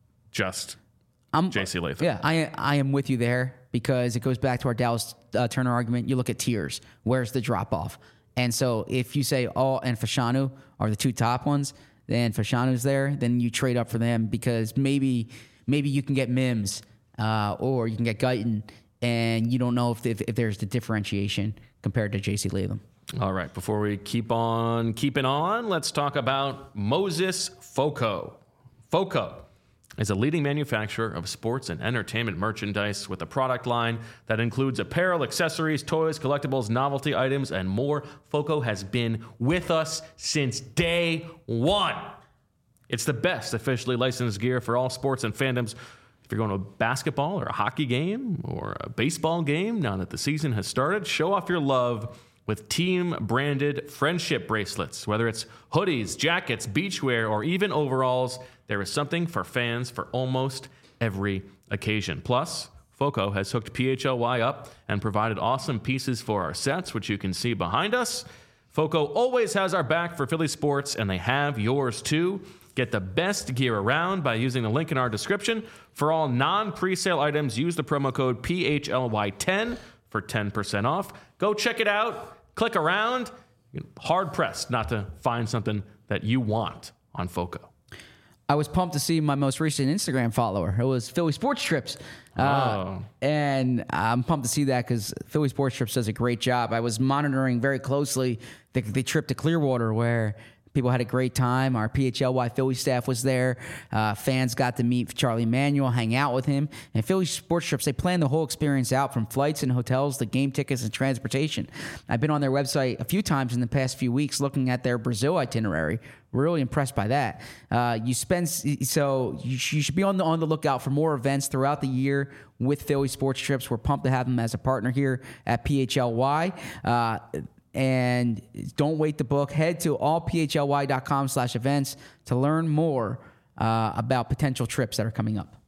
just I'm, J C Latham. Yeah, I I am with you there because it goes back to our Dallas uh, Turner argument. You look at tiers. Where's the drop off? And so if you say All and Fashanu are the two top ones, then Fashanu's there, then you trade up for them because maybe maybe you can get Mims uh, or you can get Guyton, and you don't know if, if if there's the differentiation compared to J C Latham. All right, before we keep on keeping on, let's talk about Moses Foco. Foco is a leading manufacturer of sports and entertainment merchandise with a product line that includes apparel, accessories, toys, collectibles, novelty items, and more. Foco has been with us since day one. It's the best officially licensed gear for all sports and fandoms. If you're going to a basketball or a hockey game or a baseball game, now that the season has started, show off your love with team-branded friendship bracelets. Whether it's hoodies, jackets, beachwear, or even overalls, there is something for fans for almost every occasion. Plus, Foco has hooked P H L Y up and provided awesome pieces for our sets, which you can see behind us. Foco always has our back for Philly sports, and they have yours too. Get the best gear around by using the link in our description. For all non-presale items, use the promo code P H L Y ten for ten percent off. Go check it out. Click around. You're hard-pressed not to find something that you want on Foco. I was pumped to see my most recent Instagram follower. It was Philly Sports Trips. Uh, Oh. and I'm pumped to see that because Philly Sports Trips does a great job. I was monitoring very closely the, the trip to Clearwater where people had a great time. Our P H L Y Philly staff was there. Uh, fans got to meet Charlie Manuel, hang out with him. And Philly Sports Trips, they plan the whole experience out from flights and hotels to game tickets and transportation. I've been on their website a few times in the past few weeks looking at their Brazil itinerary. Really impressed by that. Uh, you spend so you, sh- you should be on the on the lookout for more events throughout the year with Philly Sports Trips. We're pumped to have them as a partner here at P H L Y. Uh, And don't wait to book. Head to allphly.com slash events to learn more uh, about potential trips that are coming up.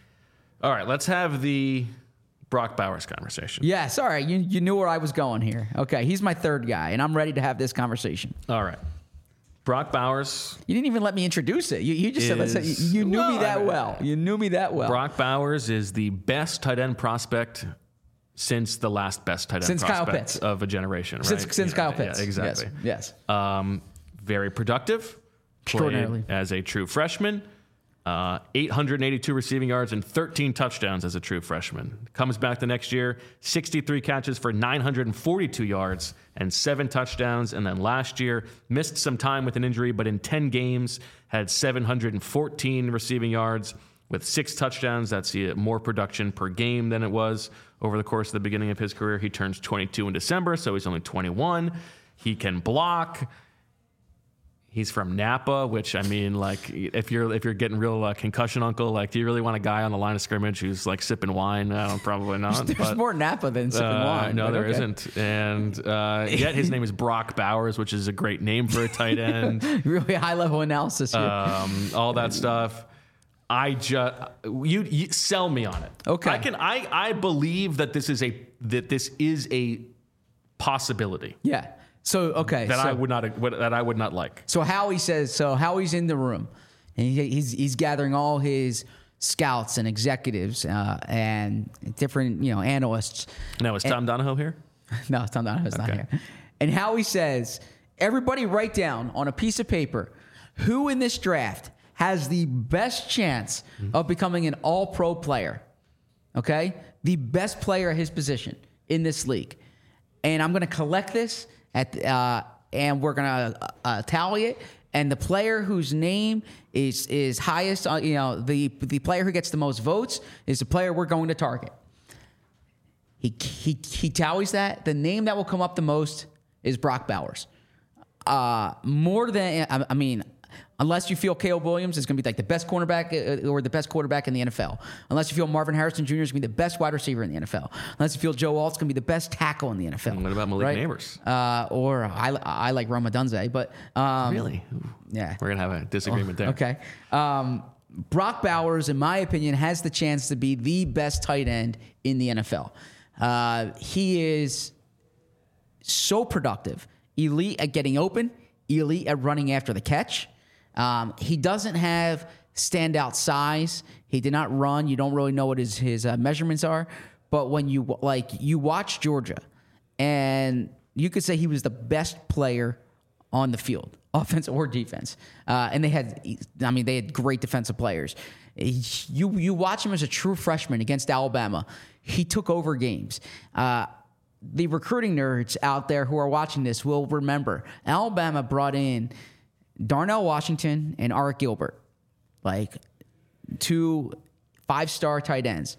All right, let's have the Brock Bowers conversation. Yeah, sorry. You, you knew where I was going here. Okay, he's my third guy, and I'm ready to have this conversation. All right. Brock Bowers. You didn't even let me introduce it. You, you just said, let's say, Is- you knew me Well, that I- well. You knew me that well. Brock Bowers is the best tight end prospect since the last best tight end Since Kyle prospect Pitts. of a generation, right? Since, since Yeah, Kyle yeah, Pitts. exactly. Yes. yes. Um, very productive. Extraordinarily. Played as a true freshman. Uh, eight hundred eighty-two receiving yards and thirteen touchdowns as a true freshman. Comes back the next year, sixty-three catches for nine hundred forty-two yards and seven touchdowns. And then last year, missed some time with an injury, but in ten games, had seven hundred fourteen receiving yards with six touchdowns. That's uh, more production per game than it was over the course of the beginning of his career. He turns twenty-two in December, so he's only twenty-one. He can block. He's from Napa, which I mean, like, if you're if you're getting real uh, concussion uncle, like, do you really want a guy on the line of scrimmage who's like sipping wine? I don't, probably not. There's but, more Napa than sipping uh, wine. No, but there okay. not And uh, yet his name is Brock Bowers, which is a great name for a tight end. Really high level analysis here. um, all that stuff. I just you, you sell me on it. Okay. I can I I believe that this is a that this is a possibility yeah. So, okay. that so, I would not that I would not like. So Howie says, so Howie's in the room, and he, he's he's gathering all his scouts and executives uh, and different you know analysts. Now is Tom Donahoe here? No, it's not. It's not Okay. here. And Howie says, everybody write down on a piece of paper who in this draft has the best chance of becoming an All-Pro player. Okay, the best player at his position in this league, and I'm going to collect this. At uh, and we're gonna uh, uh, tally it, and the player whose name is is highest, uh, you know, the the player who gets the most votes is the player we're going to target. He he he tallies that. The name that will come up the most is Brock Bowers. Uh, more than I, I mean. Unless you feel Caleb Williams is going to be like the best cornerback uh, or the best quarterback in the N F L. Unless you feel Marvin Harrison Junior is going to be the best wide receiver in the N F L. Unless you feel Joe Alt's going to be the best tackle in the N F L. What about Malik right? Neighbors? Uh, or I, I like Roma Dunze, but um, Really? yeah. We're gonna have a disagreement there. Okay. Um, Brock Bowers, in my opinion, has the chance to be the best tight end in the N F L. Uh, he is so productive, elite at getting open, elite at running after the catch. Um, he doesn't have standout size. He did not run. You don't really know what his his uh, measurements are. But when you like you watch Georgia, and you could say he was the best player on the field, offense or defense. Uh, and they had, I mean, they had great defensive players. You you watch him as a true freshman against Alabama. He took over games. Uh, the recruiting nerds out there who are watching this will remember Alabama brought in Darnell Washington and Art Gilbert, like two five-star tight ends,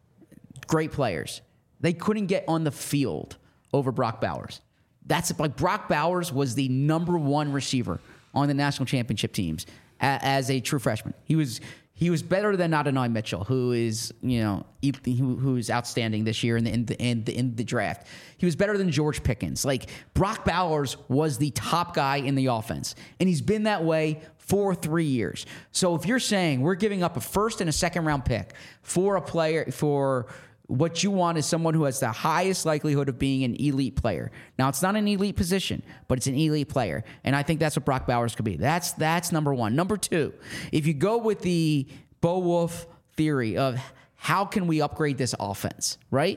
great players. They couldn't get on the field over Brock Bowers. That's like Brock Bowers was the number one receiver on the national championship teams a, as a true freshman. He was he was better than Adonai Mitchell, who is you know who, who is outstanding this year in the, in the in the in the draft. He was better than George Pickens. Like Brock Bowers was the top guy in the offense, and he's been that way for three years. So if you're saying we're giving up a first and a second round pick for a player for what you want is someone who has the highest likelihood of being an elite player. Now, it's not an elite position, but it's an elite player. And I think that's what Brock Bowers could be. That's that's number one. Number two, if you go with the Bo Wolf theory of how can we upgrade this offense, right?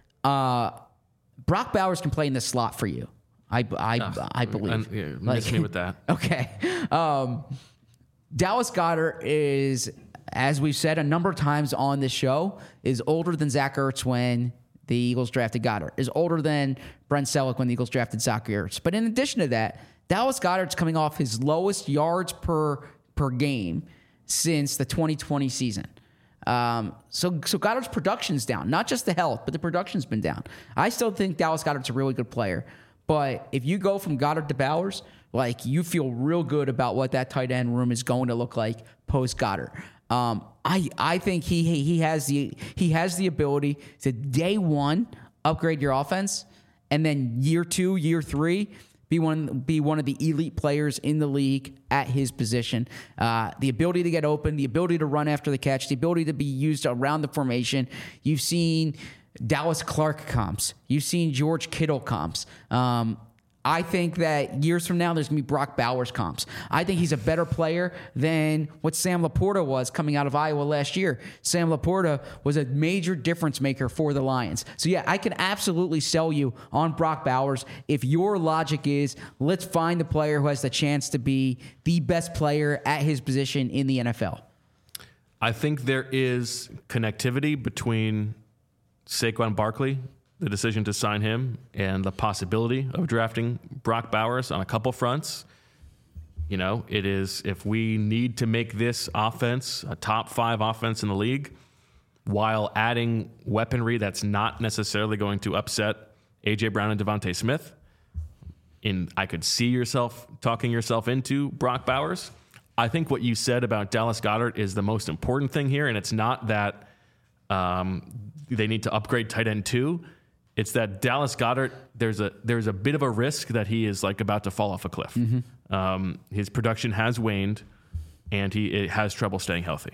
Uh, Brock Bowers can play in the slot for you. I, I, uh, I believe. Yeah, miss like, me with that. Okay. Um, Dallas Goedert is, as we've said a number of times on this show, is older than Zach Ertz when the Eagles drafted Goddard, is older than Brent Selleck when the Eagles drafted Zach Ertz. But in addition to that, Dallas Goedert's coming off his lowest yards per per game since the twenty twenty season. Um, so so Goddard's production's down, not just the health, but the production's been down. I still think Dallas Goedert's a really good player. But if you go from Goddard to Bowers, like you feel real good about what that tight end room is going to look like post Goddard. Um, I I think he he has the he has the ability to day one upgrade your offense, and then year two, year three be one be one of the elite players in the league at his position. Uh, the ability to get open, the ability to run after the catch, the ability to be used around the formation. You've seen Dallas Clark comps. You've seen George Kittle comps. Um, I think that years from now, there's going to be Brock Bowers comps. I think he's a better player than what Sam Laporta was coming out of Iowa last year. Sam Laporta was a major difference maker for the Lions. So, yeah, I can absolutely sell you on Brock Bowers if your logic is let's find the player who has the chance to be the best player at his position in the N F L. I think there is connectivity between Saquon Barkley, the decision to sign him, and the possibility of drafting Brock Bowers on a couple fronts. You know, it is, if we need to make this offense a top five offense in the league while adding weaponry that's not necessarily going to upset A J Brown and Devontae Smith, in I could see yourself talking yourself into Brock Bowers. I think what you said about Dallas Goedert is the most important thing here, and it's not that um, they need to upgrade tight end two. It's that Dallas Goedert, there's a there's a bit of a risk that he is like about to fall off a cliff. Mm-hmm. Um, his production has waned, and he it has trouble staying healthy.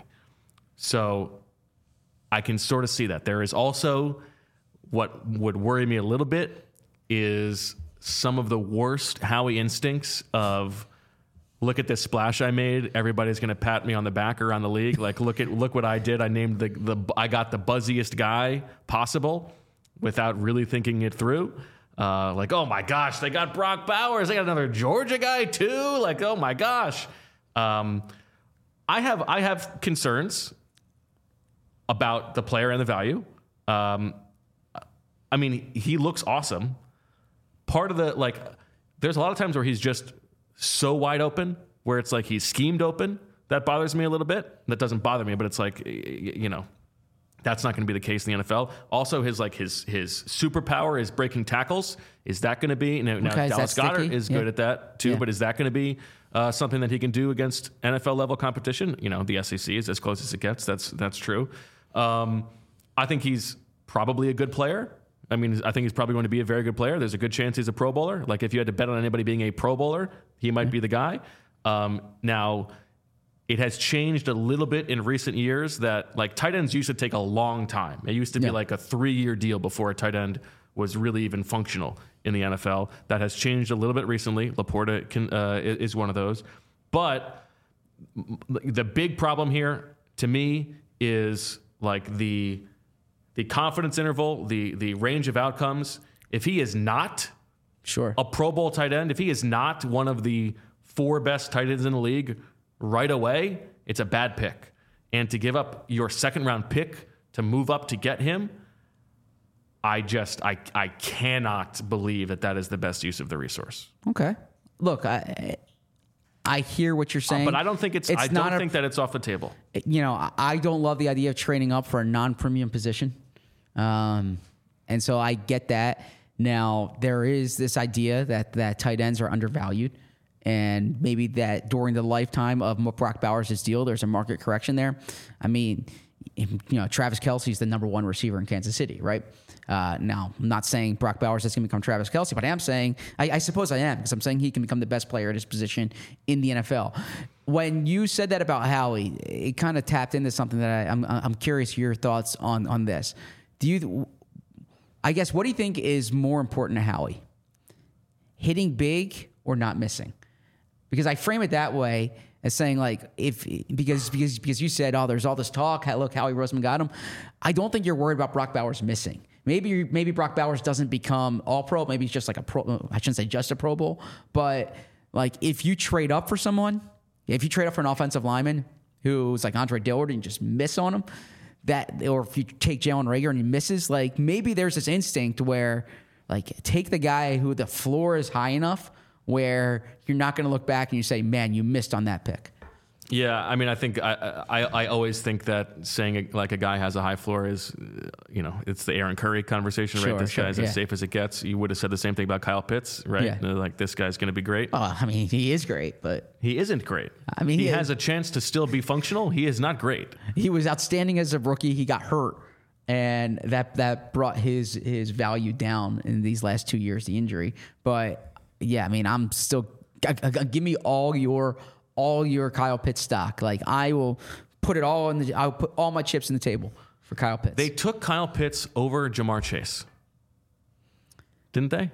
So I can sort of see that. There is also what would worry me a little bit is some of the worst Howie instincts of, look at this splash I made. Everybody's going to pat me on the back around the league. Like, look at look what I did. I named the the I got the buzziest guy possible, without really thinking it through. Uh, like, oh my gosh, they got Brock Bowers. They got another Georgia guy too. Like, oh my gosh. Um, I have I have concerns about the player and the value. Um, I mean, he looks awesome. Part of the, like, there's a lot of times where he's just so wide open, where it's like he's schemed open. That bothers me a little bit. That doesn't bother me, but it's like, you know, that's not going to be the case in the N F L. Also, his like his his superpower is breaking tackles. Is that going to be, you know, now okay, Dallas Goedert is yeah. good at that too, yeah. But is that going to be uh, something that he can do against N F L level competition? You know, the S E C is as close as it gets. That's that's true. Um, I think he's probably a good player. I mean, I think he's probably going to be a very good player. There's a good chance he's a Pro Bowler. Like, if you had to bet on anybody being a Pro Bowler, he might yeah. be the guy. Um, now, it has changed a little bit in recent years that, like, tight ends used to take a long time. It used to be yeah. like a three-year deal before a tight end was really even functional in the N F L. That has changed a little bit recently. Laporta can, uh, is one of those. But the big problem here, to me, is like the the confidence interval, the the range of outcomes. If he is not Sure. a Pro Bowl tight end, if he is not one of the four best tight ends in the league right away, it's a bad pick. And to give up your second round pick to move up to get him, I just, I, I cannot believe that that is the best use of the resource. Okay. Look, I I hear what you're saying. But I don't think it's, I not don't a- think that it's off the table. You know, I- I don't love the idea of trading up for a non-premium position. Um, and so I get that. Now, there is this idea that, that tight ends are undervalued, and maybe that during the lifetime of Brock Bowers' deal, there's a market correction there. I mean, you know, Travis Kelce's the number one receiver in Kansas City, right? Uh, now, I'm not saying Brock Bowers is going to become Travis Kelce, but I am saying, I, I suppose I am, because I'm saying he can become the best player at his position in the N F L. When you said that about Howie, it kind of tapped into something that I, I'm, I'm curious your thoughts on, on this. Do you... I guess, what do you think is more important to Howie? Hitting big or not missing? Because I frame it that way as saying, like, if because because because you said, oh, there's all this talk. Look, Howie Roseman got him. I don't think you're worried about Brock Bowers missing. Maybe maybe Brock Bowers doesn't become all pro. Maybe he's just like a pro. I shouldn't say just a Pro Bowl, but like if you trade up for someone, if you trade up for an offensive lineman who's like Andre Dillard and you just miss on him. That, or if you take Jalen Reagor and he misses, like maybe there's this instinct where, like, take the guy who the floor is high enough where you're not going to look back and you say, man, you missed on that pick. Yeah, I mean, I think I, I I always think that saying like a guy has a high floor is, uh, you know, it's the Aaron Curry conversation, Sure, right? This sure, guy's yeah. as safe as it gets. You would have said the same thing about Kyle Pitts, right? Yeah. Uh, Like this guy's going to be great. Oh, I mean, he is great, but He isn't great. I mean, he he has is- a chance to still be functional. He is not great. he was outstanding as a rookie. He got hurt, and that that brought his his value down in these last two years, the injury. But yeah, I mean, I'm still g- g- give me all your all your Kyle Pitts stock. Like I will put it all in the I'll put all my chips in the table for Kyle Pitts. They took Kyle Pitts over Jamar Chase, didn't they?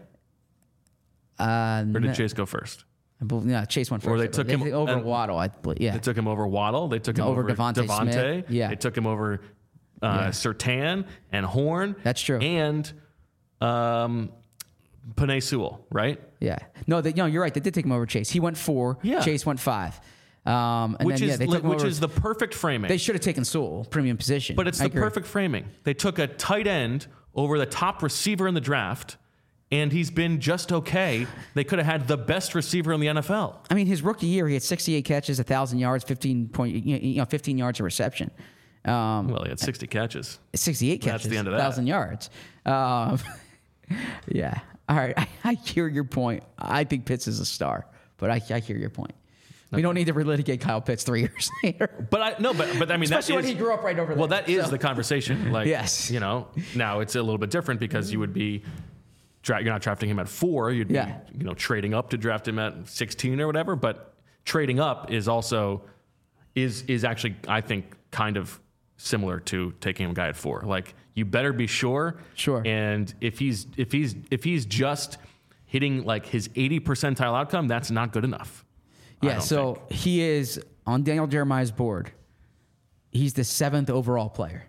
uh, Or did Chase go first? I believe, yeah, Chase went first. Or they I took believe. him- They- over and- Waddle. I believe, yeah. They took him over Waddle. They took him Over over, Devontae Devontae. Smith. Yeah. They took him over uh, Yeah. Surtain and Horn. That's true. And um, Penei Sewell, right? Yeah. No, they, no, you're right. They did take him over Chase. He went four. Yeah. Chase went five. Um, and Which then, is yeah, they li- took him which over. is the perfect framing. They should have taken Sewell, premium position. but it's I the agree. perfect framing. They took a tight end over the top receiver in the draft, and he's been just okay. They could have had the best receiver in the N F L. I mean, his rookie year, he had sixty-eight catches, one thousand yards, fifteen point, you know, fifteen yards of reception. Um, Well, he had sixty catches. sixty-eight That's catches, the end of that. one thousand yards. Um, yeah. All right. I, I hear your point. I think Pitts is a star, but I, I hear your point. We don't need to relitigate Kyle Pitts three years later. But I no, but but I mean, Especially that when is, he grew up right over there. Well, that is So- the conversation. Like, Yes. you know, now it's a little bit different because you would be, dra- you're not drafting him at four. You'd be, Yeah. you know, trading up to draft him at sixteen or whatever. But trading up is also is is actually, I think, kind of similar to taking a guy at four. Like, you better be sure. Sure. And if he's if he's if he's just hitting like his eighty percentile outcome, that's not good enough. I Yeah, don't so think. he is on Daniel Jeremiah's board. He's the seventh overall player.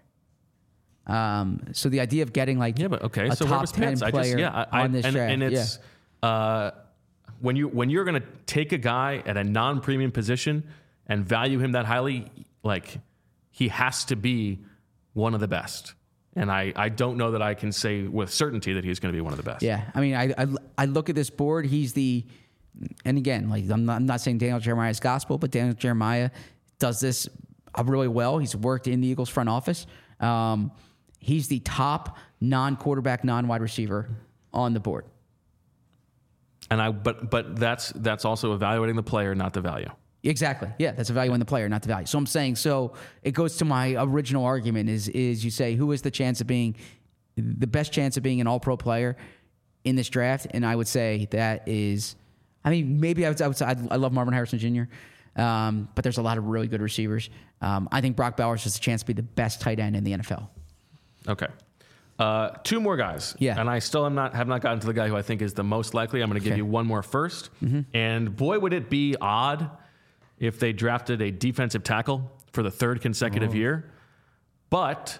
Um, so the idea of getting like Yeah, but okay. a So where top was ten Pitts? I player just yeah, I, I, on this and, draft, and it's uh, when you when you're going to take a guy at a non-premium position and value him that highly, like he has to be one of the best. And I, I don't know that I can say with certainty that he's going to be one of the best. yeah. I mean, I, I I look at this board. He's the, and again, like I'm not, I'm not saying Daniel Jeremiah is gospel, but Daniel Jeremiah does this uh, really well. He's worked in the Eagles front office. Um, he's the top non-quarterback, non-wide receiver on the board. And I but but that's that's also evaluating the player, not the value. Exactly. Yeah, that's evaluating the player, not the value. So I'm saying, so it goes to my original argument is is you say who is the chance of being the best chance of being an all-pro player in this draft, and I would say that is, I mean, maybe I would, I would say I'd, I love Marvin Harrison Junior, um, but there's a lot of really good receivers. Um, I think Brock Bowers has a chance to be the best tight end in the N F L. Okay. Uh, two more guys. Yeah. And I still am not have not gotten to the guy who I think is the most likely. I'm going to give Okay. you one more first. And boy, would it be odd if they drafted a defensive tackle for the third consecutive year. But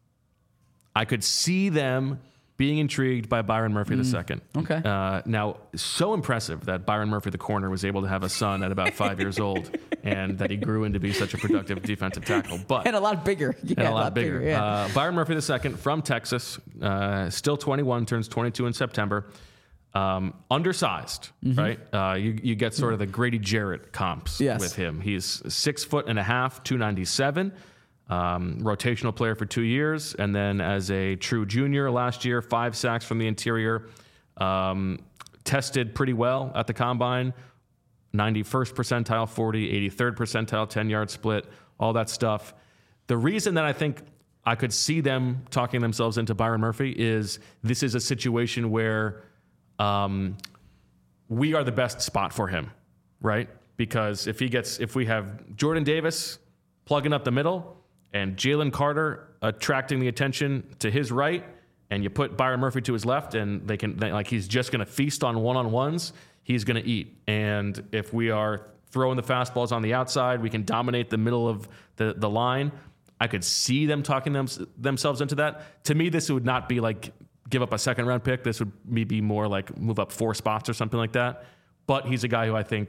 I could see them being intrigued by Byron Murphy the second. Okay. Uh, now, so impressive that Byron Murphy, the corner, was able to have a son at about five years old, and that he grew into be such a productive defensive tackle. But And a lot bigger. Yeah, and a lot, bigger. yeah. Uh, Byron Murphy the second from Texas, uh, still twenty-one, turns twenty-two in September. Um, undersized, Mm-hmm. right? Uh, you, you get sort of the Grady Jarrett comps Yes. with him. He's six foot and a half, two ninety-seven. Um, rotational player for two years, and then as a true junior last year, five sacks from the interior. Um, tested pretty well at the combine, ninety-first percentile forty, eighty-third percentile ten-yard split, all that stuff. The reason that I think I could see them talking themselves into Byron Murphy is this is a situation where um, we are the best spot for him, right? Because if he gets, if we have Jordan Davis plugging up the middle, and Jalen Carter attracting the attention to his right, and you put Byron Murphy to his left, and they can they, like he's just going to feast on one-on-ones. He's going to eat. And if we are throwing the fastballs on the outside, we can dominate the middle of the, the line. I could see them talking them, themselves into that. To me, this would not be like give up a second round pick. This would be more like move up four spots or something like that. But he's a guy who I think,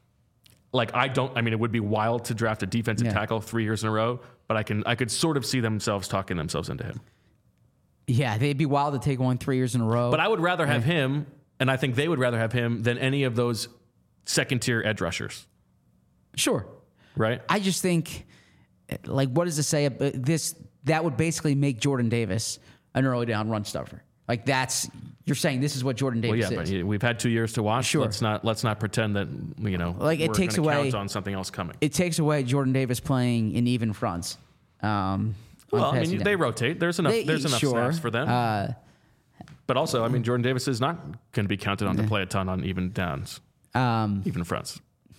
like I don't. I mean, it would be wild to draft a defensive Yeah. tackle three years in a row. But I can I could sort of see themselves talking themselves into him. Yeah, they'd be wild to take one three years in a row. But I would rather have him, and I think they would rather have him than any of those second tier edge rushers, Sure. right? I just think, like, what does it say? ab- This that would basically make Jordan Davis an early down run stuffer. Like that's you're saying this is what Jordan Well, Davis yeah, is. but we've had two years to watch. Sure. Let's not let's not pretend that you know Like, it we're takes gonna away- count on something else coming. It takes away Jordan Davis playing in even fronts. Um, on Well, I passing mean, down. they rotate. There's enough. They- there's enough sure. snaps for them. Uh, but also, I mean, Jordan Davis is not going to be counted on to play a ton on even downs, um, even fronts.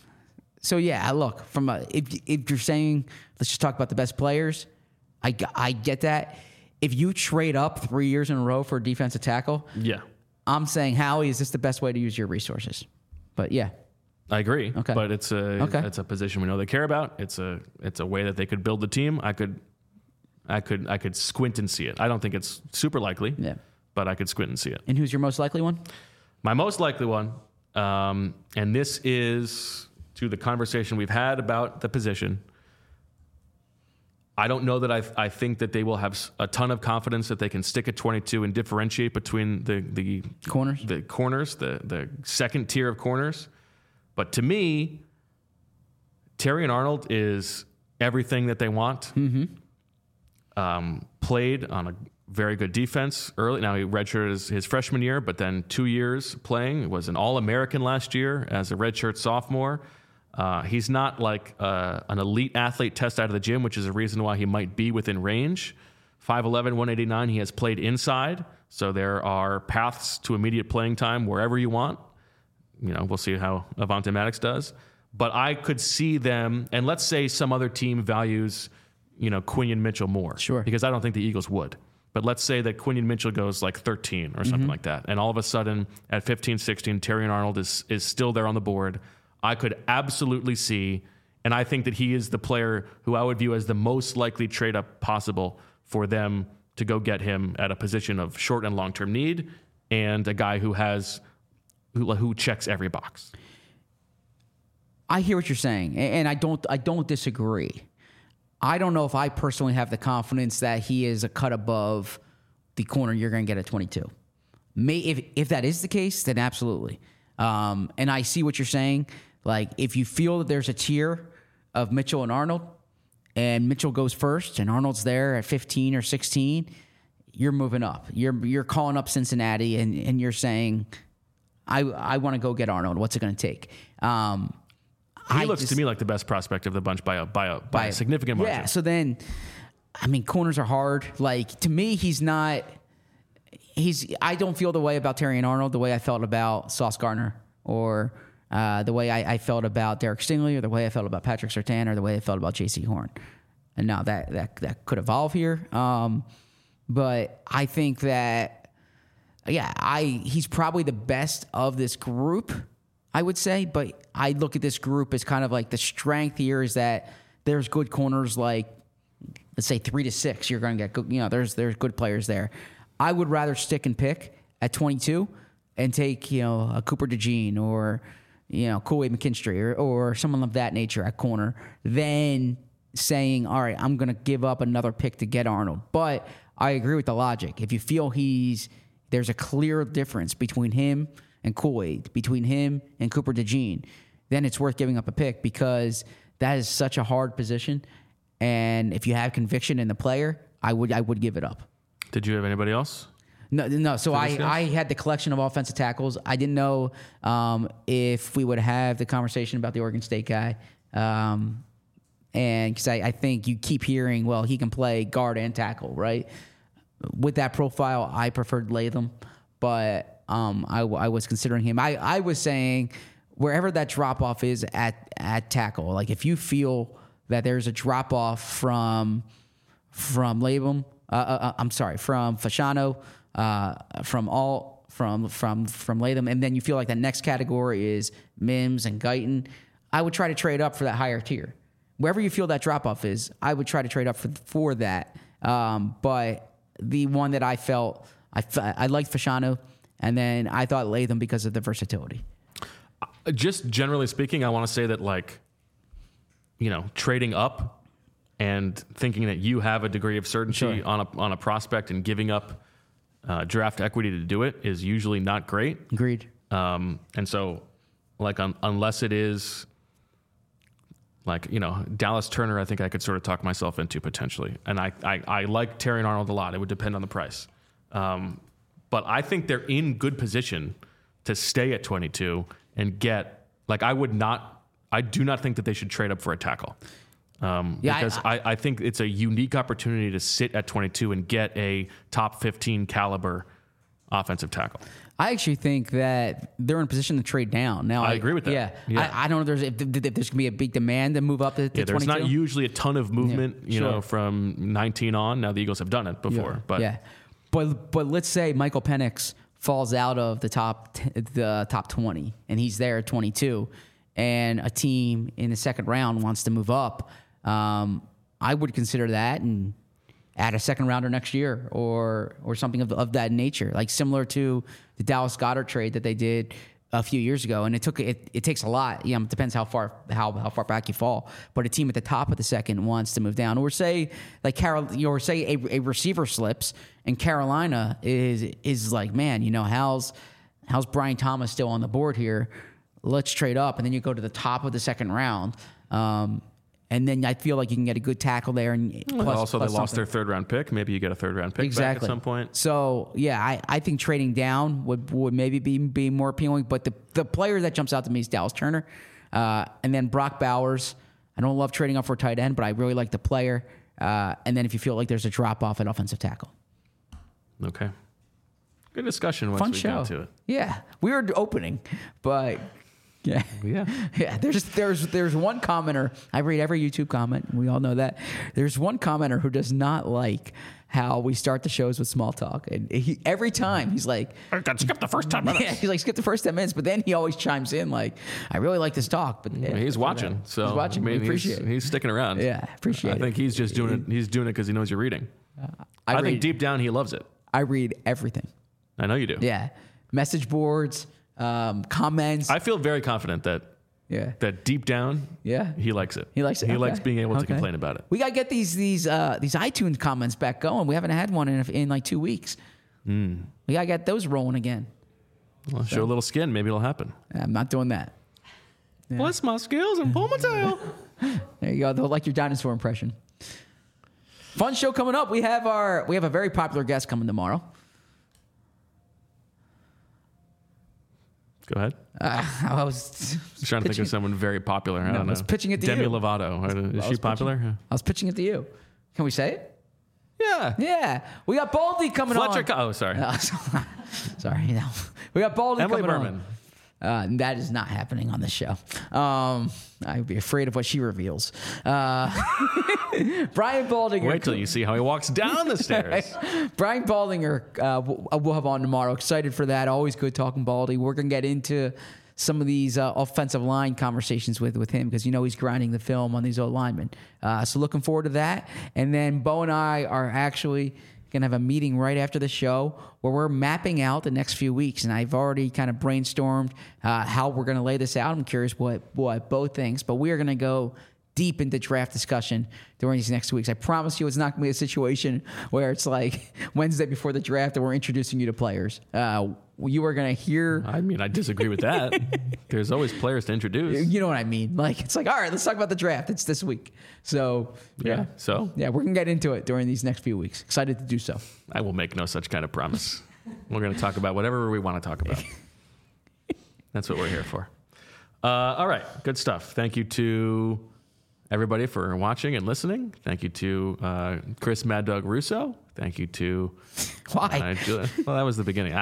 so yeah, look from a, if if you're saying let's just talk about the best players, I g- I get that. If you trade up three years in a row for a defensive tackle, Yeah, I'm saying Howie, is this the best way to use your resources? But yeah, I agree. Okay. But it's a Okay. it's a position we know they care about. It's a it's a way that they could build the team. I could I could I could squint and see it. I don't think it's super likely. Yeah. But I could squint and see it. and who's your most likely one? My most likely one, um, and this is to the conversation we've had about the position. I don't know that I, I think that they will have s- a ton of confidence that they can stick at twenty-two and differentiate between the the Corners? the corners, the the second tier of corners. But to me, Terry and Arnold is everything that they want. Mm-hmm. Um, played on a very good defense early. Now he redshirted his, his freshman year, but then two years playing. Was an All-American last year as a redshirt sophomore. Uh, he's not like uh, an elite athlete test out of the gym, which is a reason why he might be within range. five eleven, one eighty-nine. He has played inside, so there are paths to immediate playing time wherever you want. You know, we'll see how Avonte Maddox does. But I could see them, and let's say some other team values, you know, Quinion Mitchell more. Sure. Because I don't think the Eagles would. But let's say that Quinion Mitchell goes like thirteen or something like that. And all of a sudden at fifteen, sixteen, Terry and Arnold is is still there on the board. I could absolutely see, and I think that he is the player who I would view as the most likely trade up possible for them to go get him at a position of short and long-term need and a guy who has who, who checks every box. I hear what you're saying, a- and I don't I don't disagree. I don't know if I personally have the confidence that he is a cut above the corner you're going to get at twenty-two. May if if that is the case, then absolutely. Um, and I see what you're saying. Like if you feel that there's a tier of Mitchell and Arnold, and Mitchell goes first, and Arnold's there at fifteen or sixteen, you're moving up. You're you're calling up Cincinnati, and and you're saying, I I want to go get Arnold. What's it going to take? Um, He I looks just- to me like the best prospect of the bunch by a by a by, by a significant margin. Yeah. So then, I mean, corners are hard. Like to me, he's not. He's. I don't feel the way about Terry and Arnold the way I felt about Sauce Gardner, or uh, the way I, I felt about Derek Stingley, or the way I felt about Patrick Surtain, or the way I felt about J C Horn. And now that that that could evolve here. Um, but I think that, yeah, I he's probably the best of this group, I would say. But I look at this group as kind of like the strength here is that there's good corners like, let's say three to six. You're going to get good, you know, there's there's good players there. I would rather stick and pick at twenty-two and take, you know, a Cooper DeJean or, you know, Kool-Aid McKinstry or, or someone of that nature at corner than saying, all right, I'm going to give up another pick to get Arnold. But I agree with the logic. If you feel he's, there's a clear difference between him and Kool-Aid, between him and Cooper DeJean, then it's worth giving up a pick because that is such a hard position. And if you have conviction in the player, I would I would give it up. Did you have anybody else? No, no. So I, I had the collection of offensive tackles. I didn't know um, if we would have the conversation about the Oregon State guy. Um, and because I, I think you keep hearing, well, he can play guard and tackle, right? With that profile, I preferred Latham, but um, I, I was considering him. I, I was saying wherever that drop off is at at tackle, like if you feel that there's a drop off from from Latham, uh, uh, I'm sorry, from Fashanu, uh, from all from from from Latham, and then you feel like the next category is Mims and Guyton, I would try to trade up for that higher tier. Wherever you feel that drop off is, I would try to trade up for for that. Um, but the one that I felt I I liked Fashanu, and then I thought Latham because of the versatility. Just generally speaking, I want to say that, like, you know, trading up and thinking that you have a degree of certainty Sure. on a on a prospect and giving up uh, draft equity to do it is usually not great. Agreed. Um, and so, like, un- unless it is, like, you know, Dallas Turner, I think I could sort of talk myself into potentially. And I, I, I like Terrion Arnold a lot. It would depend on the price. Um, but I think they're in good position to stay at twenty-two and get, like, I would not, I do not think that they should trade up for a tackle. Um, Yeah, because I- I, I think it's a unique opportunity to sit at twenty-two and get a top fifteen caliber offensive tackle. I actually think that they're in position to trade down. Now, I agree with that. Yeah, Yeah. I, I don't know if there's if, if there's going to be a big demand to move up to, to Yeah, there's twenty-two. not usually a ton of movement, Yeah, you sure. know, from nineteen on. Now the Eagles have done it before, yeah. but yeah, but but let's say Michael Penix falls out of the top t- the top twenty, and he's there at twenty-two, and a team in the second round wants to move up. Um, I would consider that and add a second rounder next year or or something of, of that nature, like similar to the Dallas Goedert trade that they did a few years ago. And it took it, it takes a lot. You know, it depends how far how how far back you fall. But a team at the top of the second wants to move down, or say like Carol, or say a, a receiver slips, and Carolina is is like, man, you know, how's how's Brian Thomas still on the board here? Let's trade up, and then you go to the top of the second round. Um, And then I feel like you can get a good tackle there. And plus, Well, also plus they lost something. their third round pick. Maybe you get a third round pick exactly back at some point. So yeah, I, I think trading down would, would maybe be be more appealing. But the the player that jumps out to me is Dallas Turner, uh, and then Brock Bowers. I don't love trading up for a tight end, but I really like the player. Uh, and then if you feel like there's a drop off at offensive tackle, Okay. Good discussion once fun we show. got to it. Yeah, we were opening, but. Yeah, Yeah. yeah. There's there's there's one commenter. I read every YouTube comment, and we all know that. There's one commenter who does not like how we start the shows with small talk, and he every time he's like, I got skip the first ten minutes. yeah, he's like, skip the first ten minutes, but then he always chimes in like, I really like this talk, but yeah, He's watching, so he's watching. I mean, we appreciate he's, it. he's sticking around. Yeah, appreciate I think it. he's just doing it. He's doing it because he knows you're reading. I, I, read, think deep down he loves it. I read everything. I know you do. Yeah, message boards, um, comments. I feel very confident that yeah, that deep down, yeah. he likes it. He likes it. He Okay. likes being able to Okay. complain about it. We gotta get these these uh, these iTunes comments back going. We haven't had one in in like two weeks. Mm. We gotta get those rolling again. Well, show a little skin, maybe it'll happen. I'm not doing that. Bless my skills and pull my tail. There you go. They'll like your dinosaur impression. Fun show coming up. We have our we have a very popular guest coming tomorrow. Go ahead. Uh, I was Just trying to think of someone very popular. I No, don't I was know. pitching it to Demi you. Lovato. Is was she popular? I was pitching it to you. Can we say it? Yeah. Yeah. We got Baldy coming Fletcher. on. Co- oh, sorry. Uh, sorry. No. We got Baldy Emily coming Berman. on. Uh, that is not happening on this show. Um, I'd be afraid of what she reveals. Uh, Brian Baldinger. Wait till you see how he walks down the stairs. Brian Baldinger, uh, we'll, we'll have on tomorrow. Excited for that. Always good talking Baldy. We're going to get into some of these uh, offensive line conversations with, with him because you know he's grinding the film on these old linemen. Uh, so looking forward to that. And then Bo and I are actually going to have a meeting right after the show where we're mapping out the next few weeks. And I've already kind of brainstormed uh, how we're going to lay this out. I'm curious what, what Bo thinks, but we are going to go deep into draft discussion during these next weeks. I promise you it's not going to be a situation where it's like Wednesday before the draft and we're introducing you to players. Uh, you are going to hear... I mean, I disagree with that. There's always players to introduce. You know what I mean? Like, it's like, all right, let's talk about the draft. It's this week. So, yeah. Yeah, so? Yeah, we're going to get into it during these next few weeks. Excited to do so. I will make no such kind of promise. We're going to talk about whatever we want to talk about. That's what we're here for. Uh, all right, good stuff. Thank you to everybody for watching and listening. Thank you to uh, Chris Mad Dog Russo. Thank you to... Why? Uh, Julia. Well, that was the beginning.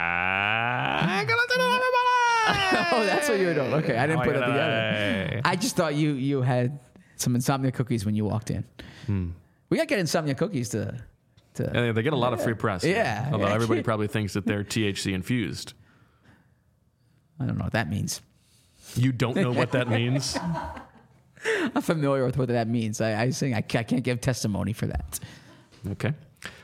Ah, good afternoon, everybody! Oh, that's what you were doing. Okay, I didn't Oh, put it yeah, together. yeah. I just thought you you had some insomnia cookies when you walked in. Hmm. We got to get insomnia cookies to... to Yeah, they get a lot of free press. Yeah. Although Yeah. everybody probably thinks that they're T H C infused. I don't know what that means. You don't know what that means? I'm familiar with what that means. I, I think I, ca- I can't give testimony for that. Okay.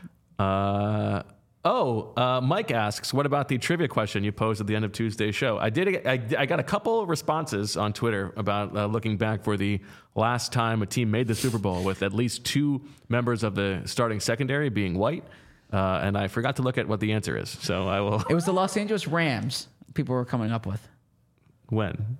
Uh, oh, uh, Mike asks, what about the trivia question you posed at the end of Tuesday's show? I did. I, I got a couple responses on Twitter about uh, looking back for the last time a team made the Super Bowl with at least two members of the starting secondary being white. Uh, and I forgot to look at what the answer is. So I will. It was the Los Angeles Rams people were coming up with. When?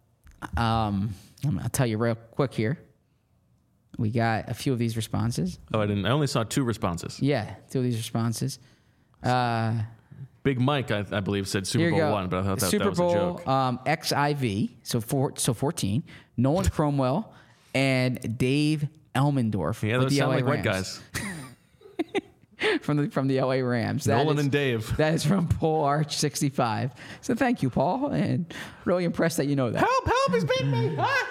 Um, I'll tell you real quick here. We got a few of these responses. Oh, I didn't. I only saw two responses. Yeah, two of these responses. Uh, Big Mike, I, I believe, said Super here you Bowl go. one, but I thought that, Super that was Bowl, a joke. Um, X I V, so four, so fourteen. Nolan Cromwell and Dave Elmendorf. Yeah, with those the sound L A like white Rams. guys. from the from the L A Rams. That Nolan is- and Dave. That is from Paul Arch sixty-five. So thank you, Paul, and really impressed that you know that. Help! Help! He's beating me! Ah!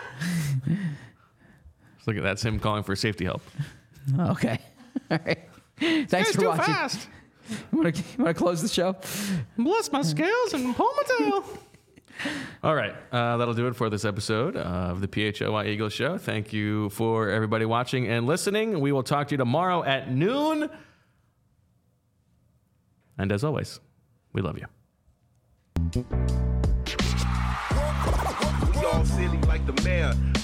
Look at that. That's him calling for safety help. Okay. All right. Thanks for too watching. fast. You want to close the show? Bless my scales and pull my tail. All right. Uh, that'll do it for this episode of the P H O Y Eagles Show. Thank you for everybody watching and listening. We will talk to you tomorrow at noon. And as always, we love you. Y'all silly like the mayor.